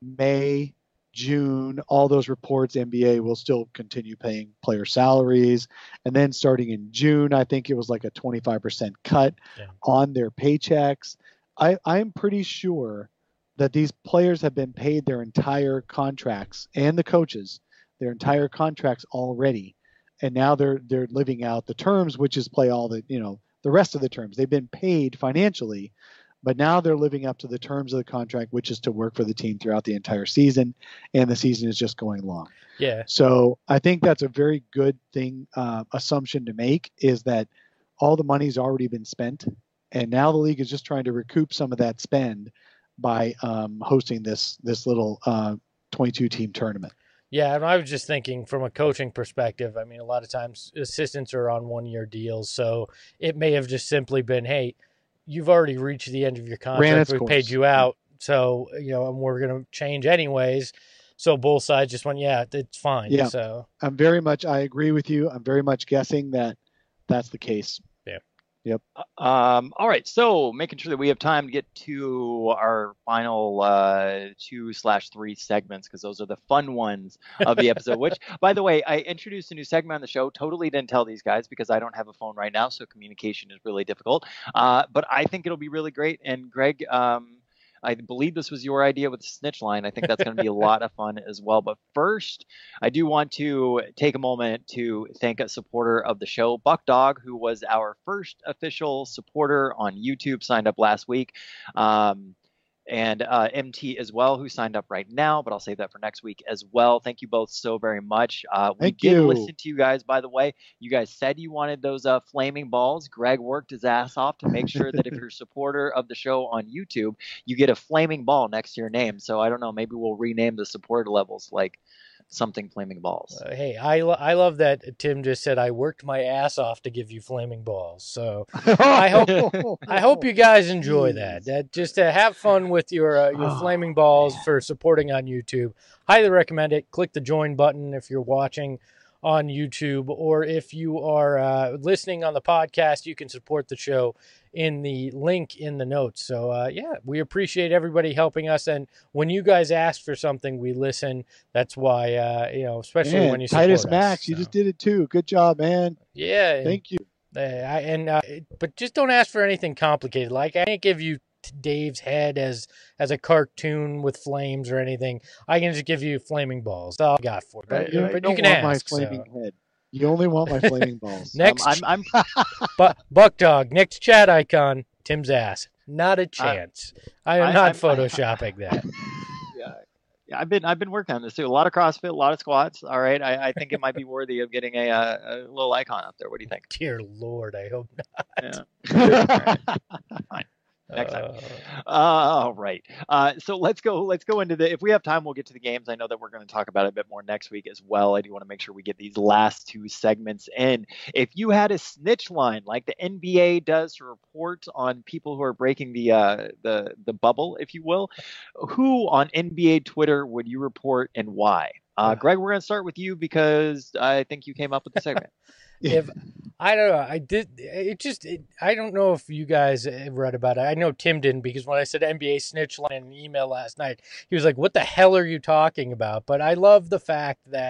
May, June, all those reports, N B A will still continue paying player salaries. And then starting in June, I think it was like a twenty-five percent cut yeah. on their paychecks. I, I'm pretty sure that these players have been paid their entire contracts, and the coaches, their entire contracts already. And now they're they're living out the terms, which is play all the, you know, the rest of the terms. They've been paid financially, but now they're living up to the terms of the contract, which is to work for the team throughout the entire season, and the season is just going long. Yeah. So I think that's a very good thing, uh, assumption to make, is that all the money's already been spent, and now the league is just trying to recoup some of that spend by um, hosting this this little uh, twenty-two team tournament. Yeah, and I was just thinking from a coaching perspective, I mean, a lot of times assistants are on one-year deals, so it may have just simply been, hey, you've already reached the end of your contract. We paid you out, so, you know, and we're going to change anyways. So both sides just went, yeah, it's fine. Yeah, so I'm very much, I agree with you. I'm very much guessing that that's the case. Yeah. Yep. Um, all right. So making sure that we have time to get to our final uh, two slash three segments, because those are the fun ones of the episode, which, by the way, I introduced a new segment on the show. Totally didn't tell these guys because I don't have a phone right now. So communication is really difficult. Uh, but I think it'll be really great. And Greg, um, I believe this was your idea with the snitch line. I think that's going to be a lot of fun as well. But first, I do want to take a moment to thank a supporter of the show, Buck Dog, who was our first official supporter on YouTube, signed up last week. Um, and uh, M T as well, who signed up right now, but I'll save that for next week as well. Thank you both so very much. Uh, we Thank did you. listen to you guys, by the way. You guys said you wanted those uh, flaming balls. Greg worked his ass off to make sure that if you're a supporter of the show on YouTube, you get a flaming ball next to your name. So I don't know, maybe we'll rename the supporter levels like something flaming balls. Uh, hey, I, lo- I love that Tim just said I worked my ass off to give you flaming balls. So I hope I hope you guys enjoy that. That just to have fun with your uh, your Oh, flaming balls man. for supporting on YouTube. Highly recommend it. Click the join button if you're watching on YouTube, or if you are uh, listening on the podcast, you can support the show in the link in the notes. So uh, yeah, we appreciate everybody helping us, and when you guys ask for something, we listen. That's why uh, you know, especially Man, when you support Titus us, Max, so. you just did it too. Good job, man. Yeah, Thank you. Uh, I, and uh, but just don't ask for anything complicated. Like I can't give you Dave's head as as a cartoon with flames or anything. I can just give you flaming balls. That's all I got for it. But, you, but you you don't can want ask. my flaming so. head. You only want my flaming balls. Next, Um, I'm, I'm Bu- Buck Dog, next chat icon, Tim's ass. Not a chance. I, am I- not I'm- photoshopping that. yeah, yeah, I've been I've been working on this too. A lot of CrossFit, a lot of squats. All right, I, I think it might be worthy of getting a, a, a little icon up there. What do you think? Dear Lord, I hope not. Yeah. Fine. Next time. Uh, Uh, all right. Uh, so let's go. Let's go into the. If we have time, we'll get to the games. I know that we're going to talk about it a bit more next week as well. I do want to make sure we get these last two segments in. If you had a snitch line like the N B A does to report on people who are breaking the uh, the the bubble, if you will, who on N B A Twitter would you report and why? Uh, Greg, we're going to start with you because I think you came up with the segment. if I don't know, I did. It just. It, I don't know if you guys have read about it. I know Tim didn't, because when I said N B A snitch line in an email last night, he was like, "What the hell are you talking about?" But I love the fact that,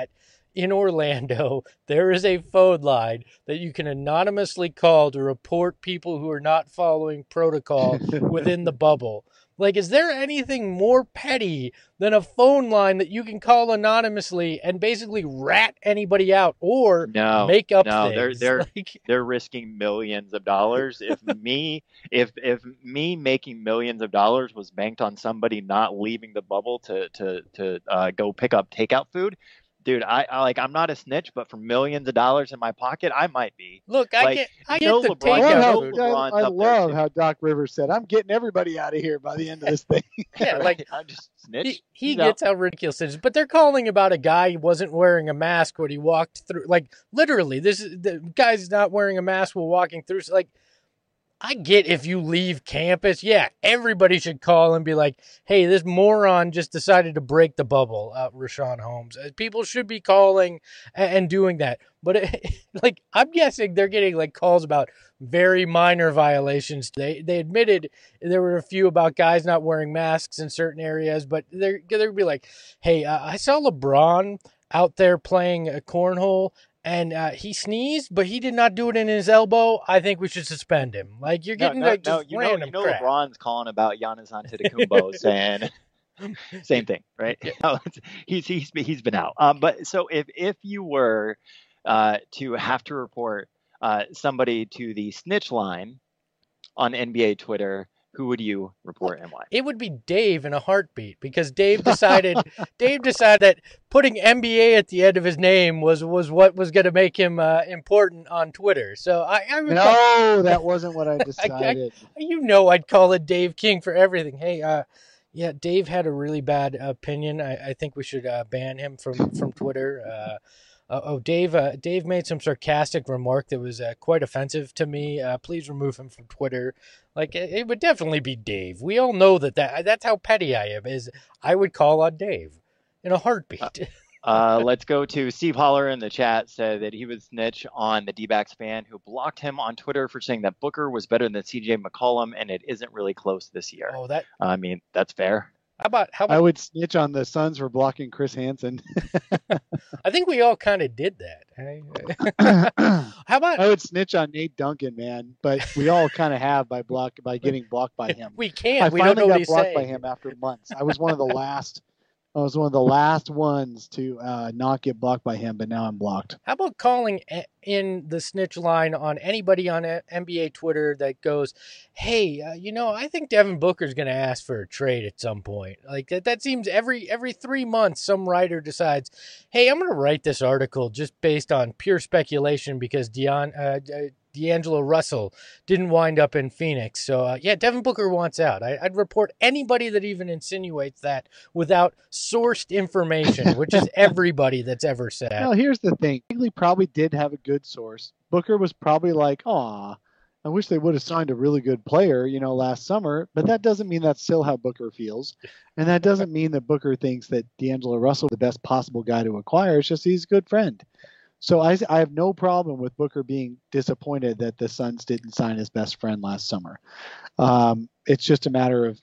in Orlando, there is a phone line that you can anonymously call to report people who are not following protocol within the bubble. Like, is there anything more petty than a phone line that you can call anonymously and basically rat anybody out or no, make up no, things? they're they're like, they're risking millions of dollars. If me if if me making millions of dollars was banked on somebody not leaving the bubble to to to uh, go pick up takeout food, dude, I, I like I'm not a snitch, but for millions of dollars in my pocket, I might be. Look, I like, get I no get the LeBron, I love takeout how, food. LeBron's I, I up there, love too. how Doc Rivers said, "I'm getting everybody out of here by the end of this thing." Yeah, like I'm just snitch. he, he He's gets out. how ridiculous it is. But they're calling about a guy who wasn't wearing a mask when he walked through. Like, literally, this is the guy's not wearing a mask while walking through. So, like, I get if you leave campus, yeah, everybody should call and be like, hey, this moron just decided to break the bubble, uh, Rashawn Holmes. Uh, People should be calling and, and doing that. But, it, like, I'm guessing they're getting, like, calls about very minor violations. They they admitted there were a few about guys not wearing masks in certain areas, but they're, they're be like, hey, uh, I saw LeBron out there playing a cornhole, and uh, he sneezed, but he did not do it in his elbow. I think we should suspend him. Like, you're No, getting no, like no, just you know, random you know, crap. LeBron's calling about Giannis Antetokounmpo, saying same thing, right? No, it's- he's he's he's been out. Um, but so if if you were uh, to have to report uh, somebody to the snitch line on N B A Twitter, who would you report and why? It would be Dave in a heartbeat because Dave decided Dave decided that putting N B A at the end of his name was was what was going to make him uh, important on Twitter. So I, I would call, No, that wasn't what I decided. you know, I'd call it Dave King for everything. Hey, uh, yeah, Dave had a really bad opinion. I, I think we should uh, ban him from from Twitter. Uh, uh, oh, Dave! Uh, Dave made some sarcastic remark that was uh, quite offensive to me. Uh, please remove him from Twitter. Like it, it would definitely be Dave. We all know that, that that's how petty I am. Is I would call on Dave in a heartbeat. Uh, let's go to Steve Holler in the chat. Said that he would snitch on the D-backs fan who blocked him on Twitter for saying that Booker was better than C J McCollum, and it isn't really close this year. Oh, that. I mean, that's fair. How about how I about? would snitch on the Suns for blocking Chris Hansen. I think we all kind of did that. Hey? I How about would snitch on Nate Duncan, man, but we all kind of have by block by getting blocked by him. we can't? I we don't know finally what got he's blocked saying. by him after months. I was one of the last. I was one of the last ones to uh, not get blocked by him, but now I'm blocked. How about calling a- in the snitch line on anybody on a- N B A Twitter that goes, hey, uh, you know, I think Devin Booker's going to ask for a trade at some point. Like that, that seems every every three months some writer decides, hey, I'm going to write this article just based on pure speculation because Dion, uh, uh, D'Angelo Russell didn't wind up in Phoenix. So, uh, yeah, Devin Booker wants out. I, I'd report anybody that even insinuates that without sourced information, which is everybody that's ever said. Well, here's the thing. Bagley probably did have a good source. Booker was probably like, aw, I wish they would have signed a really good player, you know, last summer. But that doesn't mean that's still how Booker feels. And that doesn't mean that Booker thinks that D'Angelo Russell is the best possible guy to acquire. It's just he's a good friend. So I, I have no problem with Booker being disappointed that the Suns didn't sign his best friend last summer. Um, it's just a matter of,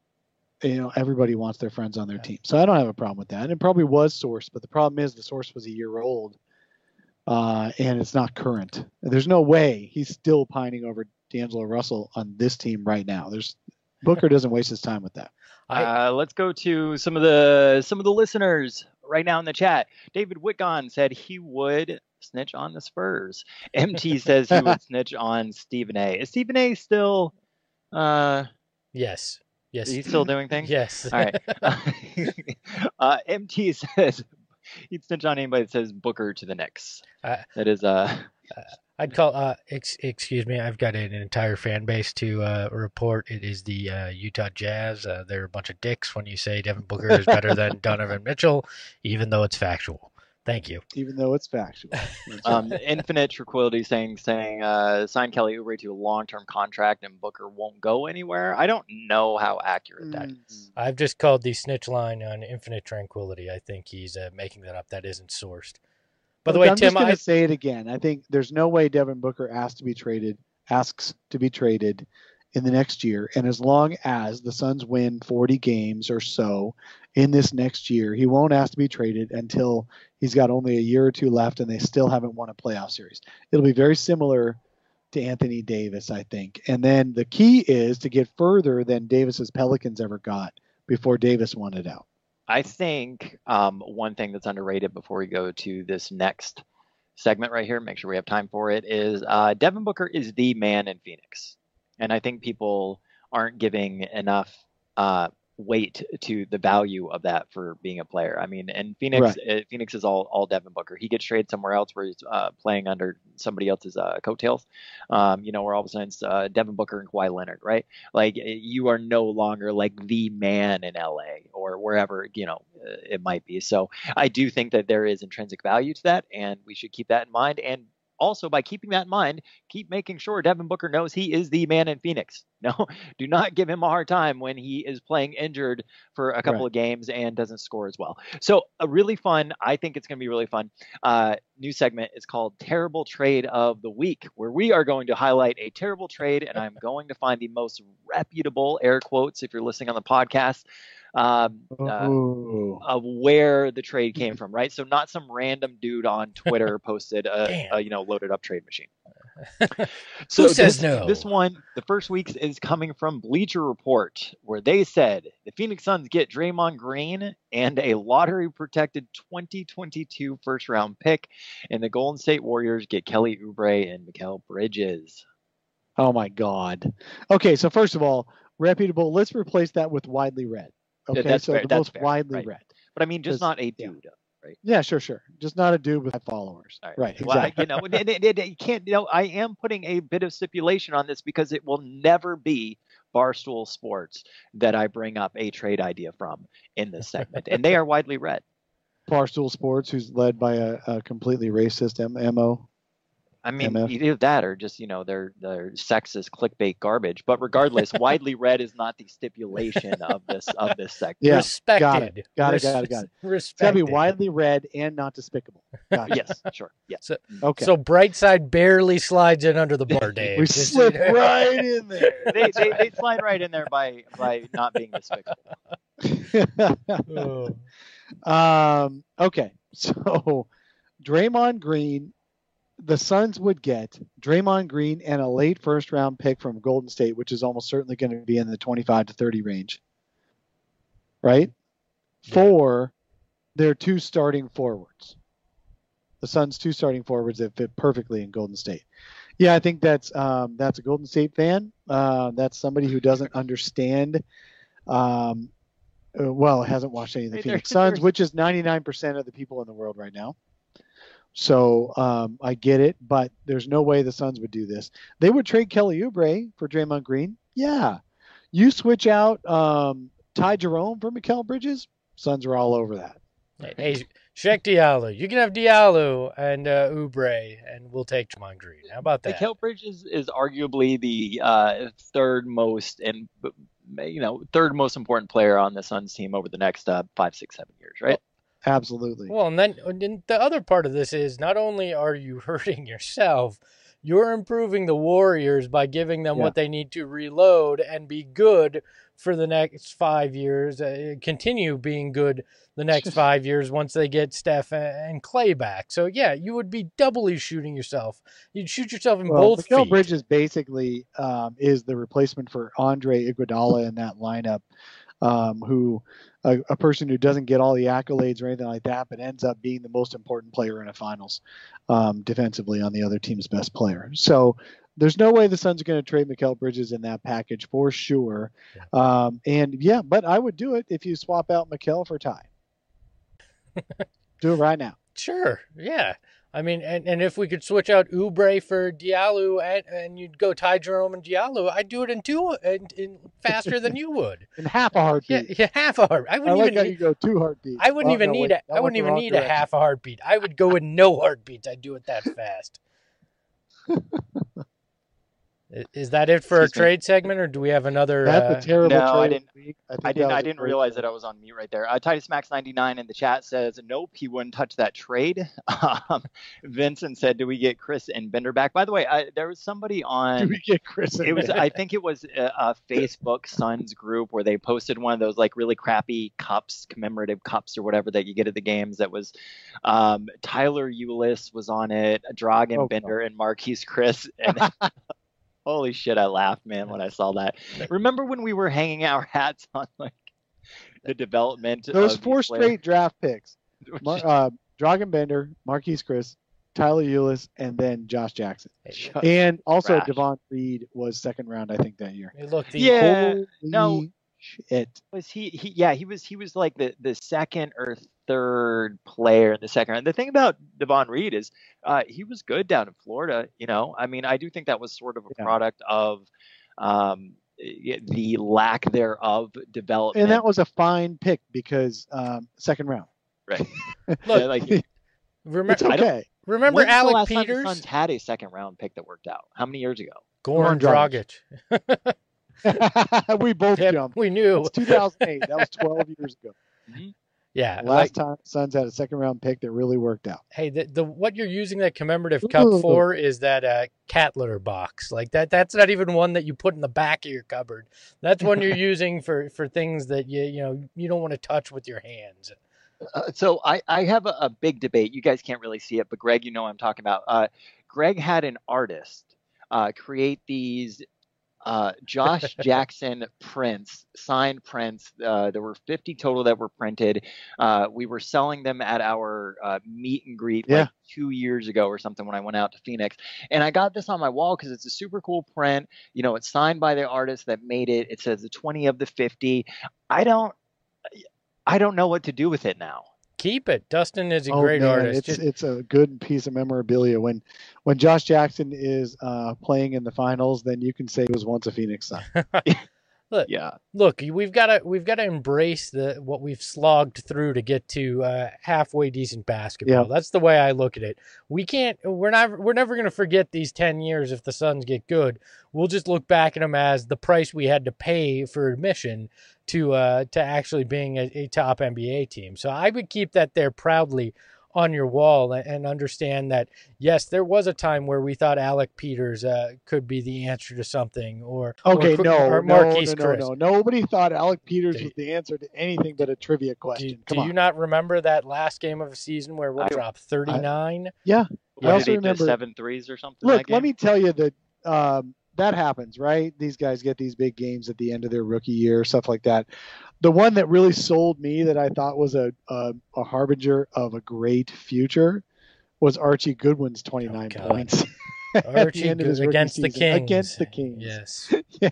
you know, everybody wants their friends on their team. So I don't have a problem with that. And it probably was sourced, but the problem is the source was a year old uh, and it's not current. There's no way he's still pining over D'Angelo Russell on this team right now. There's Booker doesn't waste his time with that. Uh, let's go to some of the some of the listeners right now in the chat. David Whitgon said he would snitch on the Spurs. M T says he would snitch on Stephen A. Is Stephen A. still? Uh, Yes. Yes. He's still doing things. Yes. All right. uh, M T says he'd snitch on anybody that says Booker to the Knicks. Uh, that is uh. I'd call. Uh, ex- excuse me. I've got an entire fan base to uh, report. It is the uh, Utah Jazz. Uh, they're a bunch of dicks when you say Devin Booker is better than Donovan Mitchell, even though it's factual. Thank you. Even though it's factual. um, Infinite Tranquility saying saying uh, sign Kelly Oubre to a long term contract and Booker won't go anywhere. I don't know how accurate that is. I've just called the snitch line on Infinite Tranquility. I think he's uh, making that up. That isn't sourced. By the Look, way, I'm Tim, just going I to say it again. I think there's no way Devin Booker asked to be traded, asks to be traded, in the next year. And as long as the Suns win forty games or so in this next year, he won't ask to be traded until he's got only a year or two left and they still haven't won a playoff series. It'll be very similar to Anthony Davis, I think. And then the key is to get further than Davis's Pelicans ever got before Davis won it out. I think um, one thing that's underrated before we go to this next segment right here, make sure we have time for it, is uh, Devin Booker is the man in Phoenix. And I think people aren't giving enough uh, weight to the value of that for being a player. I mean, and Phoenix, right. uh, Phoenix is all all Devin Booker. He gets traded somewhere else where he's uh, playing under somebody else's uh, coattails. Um, you know, where all of a sudden it's uh, Devin Booker and Kawhi Leonard, right? Like you are no longer like the man in L A or wherever you know uh, it might be. So I do think that there is intrinsic value to that, and we should keep that in mind. And also, by keeping that in mind, keep making sure Devin Booker knows he is the man in Phoenix. No, do not give him a hard time when he is playing injured for a couple right. of games and doesn't score as well. So a really fun, I think it's going to be really fun, uh, new segment is called Terrible Trade of the Week, where we are going to highlight a terrible trade, and I'm going to find the most reputable, air quotes, if you're listening on the podcast, um, uh, of where the trade came from, right? So not some random dude on Twitter posted a, a you know loaded up trade machine. So Who says this, no? This one, the first week is coming from Bleacher Report, where they said the Phoenix Suns get Draymond Green and a lottery-protected twenty twenty-two first-round pick, and the Golden State Warriors get Kelly Oubre and Mikal Bridges. Oh my God! Okay, so first of all, reputable. Let's replace that with widely read. Okay, that's so fair, the that's most fair, widely right. read. But I mean, just not a dude. Yeah. Right. Yeah, sure, sure. Just not a dude with five followers. Right. right Well, exactly. you know, it, it, it, you can't. You know, I am putting a bit of stipulation on this because it will never be Barstool Sports that I bring up a trade idea from in this segment, and they are widely read. Barstool Sports, who's led by a, a completely racist M- MO. I mean, M F. either that or just, you know, they're, they're sexist clickbait garbage. But regardless, widely read is not the stipulation of this of this segment. Yeah, Respected. got it. Got Res- it. Got it. Got it. Respected. It's got to be widely read and not despicable. Gotcha. Yes, sure. Yes. So, okay. So Brightside barely slides in under the bar, Dave. we This- slip right in there. they, they they slide right in there by by not being despicable. Oh. um. Okay. So, Draymond Green. The Suns would get Draymond Green and a late first round pick from Golden State, which is almost certainly going to be in the twenty-five to thirty range. Right? Yeah. For their two starting forwards. The Suns' two starting forwards that fit perfectly in Golden State. Yeah, I think that's um, that's a Golden State fan. Uh, that's somebody who doesn't understand, um, uh, well, hasn't watched any of the Hey, Phoenix there- Suns, there's- which is ninety-nine percent of the people in the world right now. So um, I get it, but there's no way the Suns would do this. They would trade Kelly Oubre for Draymond Green. Yeah. You switch out um, Ty Jerome for Mikal Bridges, Suns are all over that. Hey, Sheck Diallo. You can have Diallo and uh, Oubre, and we'll take Draymond Green. How about that? Mikal Bridges is arguably the uh, third most and you know third most important player on the Suns team over the next uh, five, six, seven years, right? Absolutely. Well, and then and the other part of this is not only are you hurting yourself, you're improving the Warriors by giving them Yeah. what they need to reload and be good for the next five years, uh, continue being good the next five years once they get Steph and Clay back. So, yeah, you would be doubly shooting yourself. You'd shoot yourself in Well, both Mikal feet. Bridges basically um, is the replacement for Andre Iguodala in that lineup, um, who a, a person who doesn't get all the accolades or anything like that, but ends up being the most important player in a finals um, defensively on the other team's best player. So there's no way the Suns are going to trade Mikal Bridges in that package for sure. Um, and yeah, but I would do it if you swap out Mikal for Ty. Do it right now. Sure, yeah. I mean, and, and if we could switch out Oubre for Diallo and, and you'd go Ty Jerome and Diallo, I'd do it in two in, in faster than you would. In half a Yeah, heartbeat. yeah, half a heart. I I wouldn't like even how need, you go two heartbeats. I wouldn't Oh, even no, need wait, a that I went wouldn't the even wrong need a direction. half a heartbeat. I would go with no heartbeats. I'd do it that fast. Is that it for Excuse our trade segment, or do we have another? That's uh, a terrible No, I trade. didn't- of the week. I think didn't. that was I a didn't great realize trade. that I was on mute right there. Uh, Titus Max ninety-nine in the chat says, "Nope, he wouldn't touch that trade." Um, Vincent said, "Do we get Chris and Bender back?" By the way, I, there was somebody Do on. we get Chris? It was. I think it was a, a Facebook Suns group where they posted one of those like really crappy cups, commemorative cups or whatever that you get at the games. That was um, Tyler Eulis was on it, Dragan Oh, Bender, and Marquise Chris. And holy shit, I laughed, man, when I saw that. Remember when we were hanging our hats on like the development? Those of four these players? straight draft picks: Mar- uh, Dragan Bender, Marquise Chris, Tyler Eulis, and then Josh Jackson. Just And also trash. Devon Reed was second round, I think, that year. Hey, look, the, Yeah. Holy no. shit. Was he, he? Yeah, he was. He was like the the second or third player in the second round. The thing about Devon Reed is, uh, he was good down in Florida. You know, I mean, I do think that was sort of a Yeah. product of um, the lack thereof development. And that was a fine pick because um, second round. right. Look, Yeah, like, remember, It's I don't- okay. remember when's the Alec last time the Peters, Suns had a second round pick that worked out? How many years ago? Goran Goran Dragic. We both Yep, jumped. we knew. It's two thousand eight. That was twelve years ago. Yeah, Last like, time Suns had a second round pick that really worked out. hey, the, the what you're using that commemorative cup Ooh. for is that uh, cat litter box. Like that. That's not even one that you put in the back of your cupboard. That's one you're using for for things that you you know you don't want to touch with your hands. Uh, so I, I have a, a big debate. You guys can't really see it, but Greg, you know what I'm talking about. Uh, Greg had an artist uh, create these uh, Josh Jackson prints, signed prints. Uh, there were fifty total that were printed. Uh, we were selling them at our uh, meet and greet Yeah. like two years ago or something when I went out to Phoenix. And I got this on my wall because it's a super cool print. You know, it's signed by the artist that made it. It says the twenty of the fifty. I don't. I don't know what to do with it now. Keep it. Dustin is a Oh, great man, artist. It's Just- it's a good piece of memorabilia. When when Josh Jackson is uh, playing in the finals, then you can say he was once a Phoenix Sun. Yeah. Look, we've got to we've got to embrace the what we've slogged through to get to uh, halfway decent basketball. Yeah. That's the way I look at it. We can't. We're not. We're never going to forget these ten years if the Suns get good. We'll just look back at them as the price we had to pay for admission to uh, to actually being a, a top N B A team. So I would keep that there proudly on your wall and understand that, yes, there was a time where we thought Alec Peters uh, could be the answer to something, or Okay, or, no, or no, Marquise no, Chris. no, no. Nobody thought Alec Peters Do- was the answer to anything but a trivia question. Do, Come do on. you not remember that last game of the season where we'll I- drop thirty-nine? Yeah. What also did he do, remember- seven threes or something? Look, that let game? me tell you that um, that happens, right? These guys get these big games at the end of their rookie year, stuff like that. The one that really sold me that I thought was a a, a harbinger of a great future was Archie Goodwin's twenty-nine Oh, God. points. at the Archie end of his Good- rookie against the season. Kings. Against the Kings. Yes.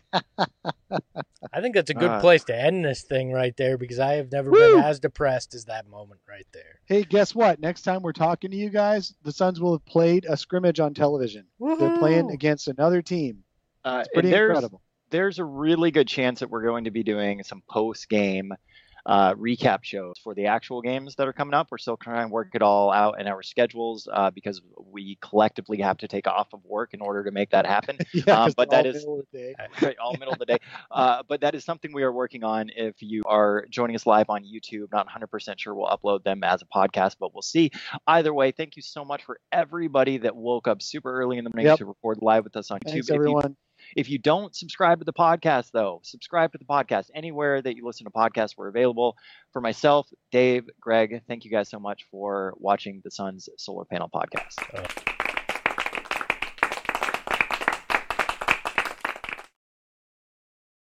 I think that's a good Uh, place to end this thing right there because I have never Woo! been as depressed as that moment right there. Hey, guess what? Next time we're talking to you guys, the Suns will have played a scrimmage on television. They're playing Woohoo! against another team. Uh, It's pretty there's, incredible. there's a really good chance that we're going to be doing some post-game uh, recap shows for the actual games that are coming up. We're still trying to work it all out in our schedules uh, because we collectively have to take off of work in order to make that happen. Yeah, Um, 'cause but they're that all is- middle of the day. Right, all middle of the day. Uh, but that is something we are working on. If you are joining us live on YouTube, not one hundred percent sure we'll upload them as a podcast, but we'll see. Either way, thank you so much for everybody that woke up super early in the morning Yep. to record live with us on Thanks, YouTube. If you, everyone. if you don't subscribe to the podcast, though, subscribe to the podcast. Anywhere that you listen to podcasts, we're available. For myself, Dave, Greg, thank you guys so much for watching the Suns Solar Panel Podcast. Uh,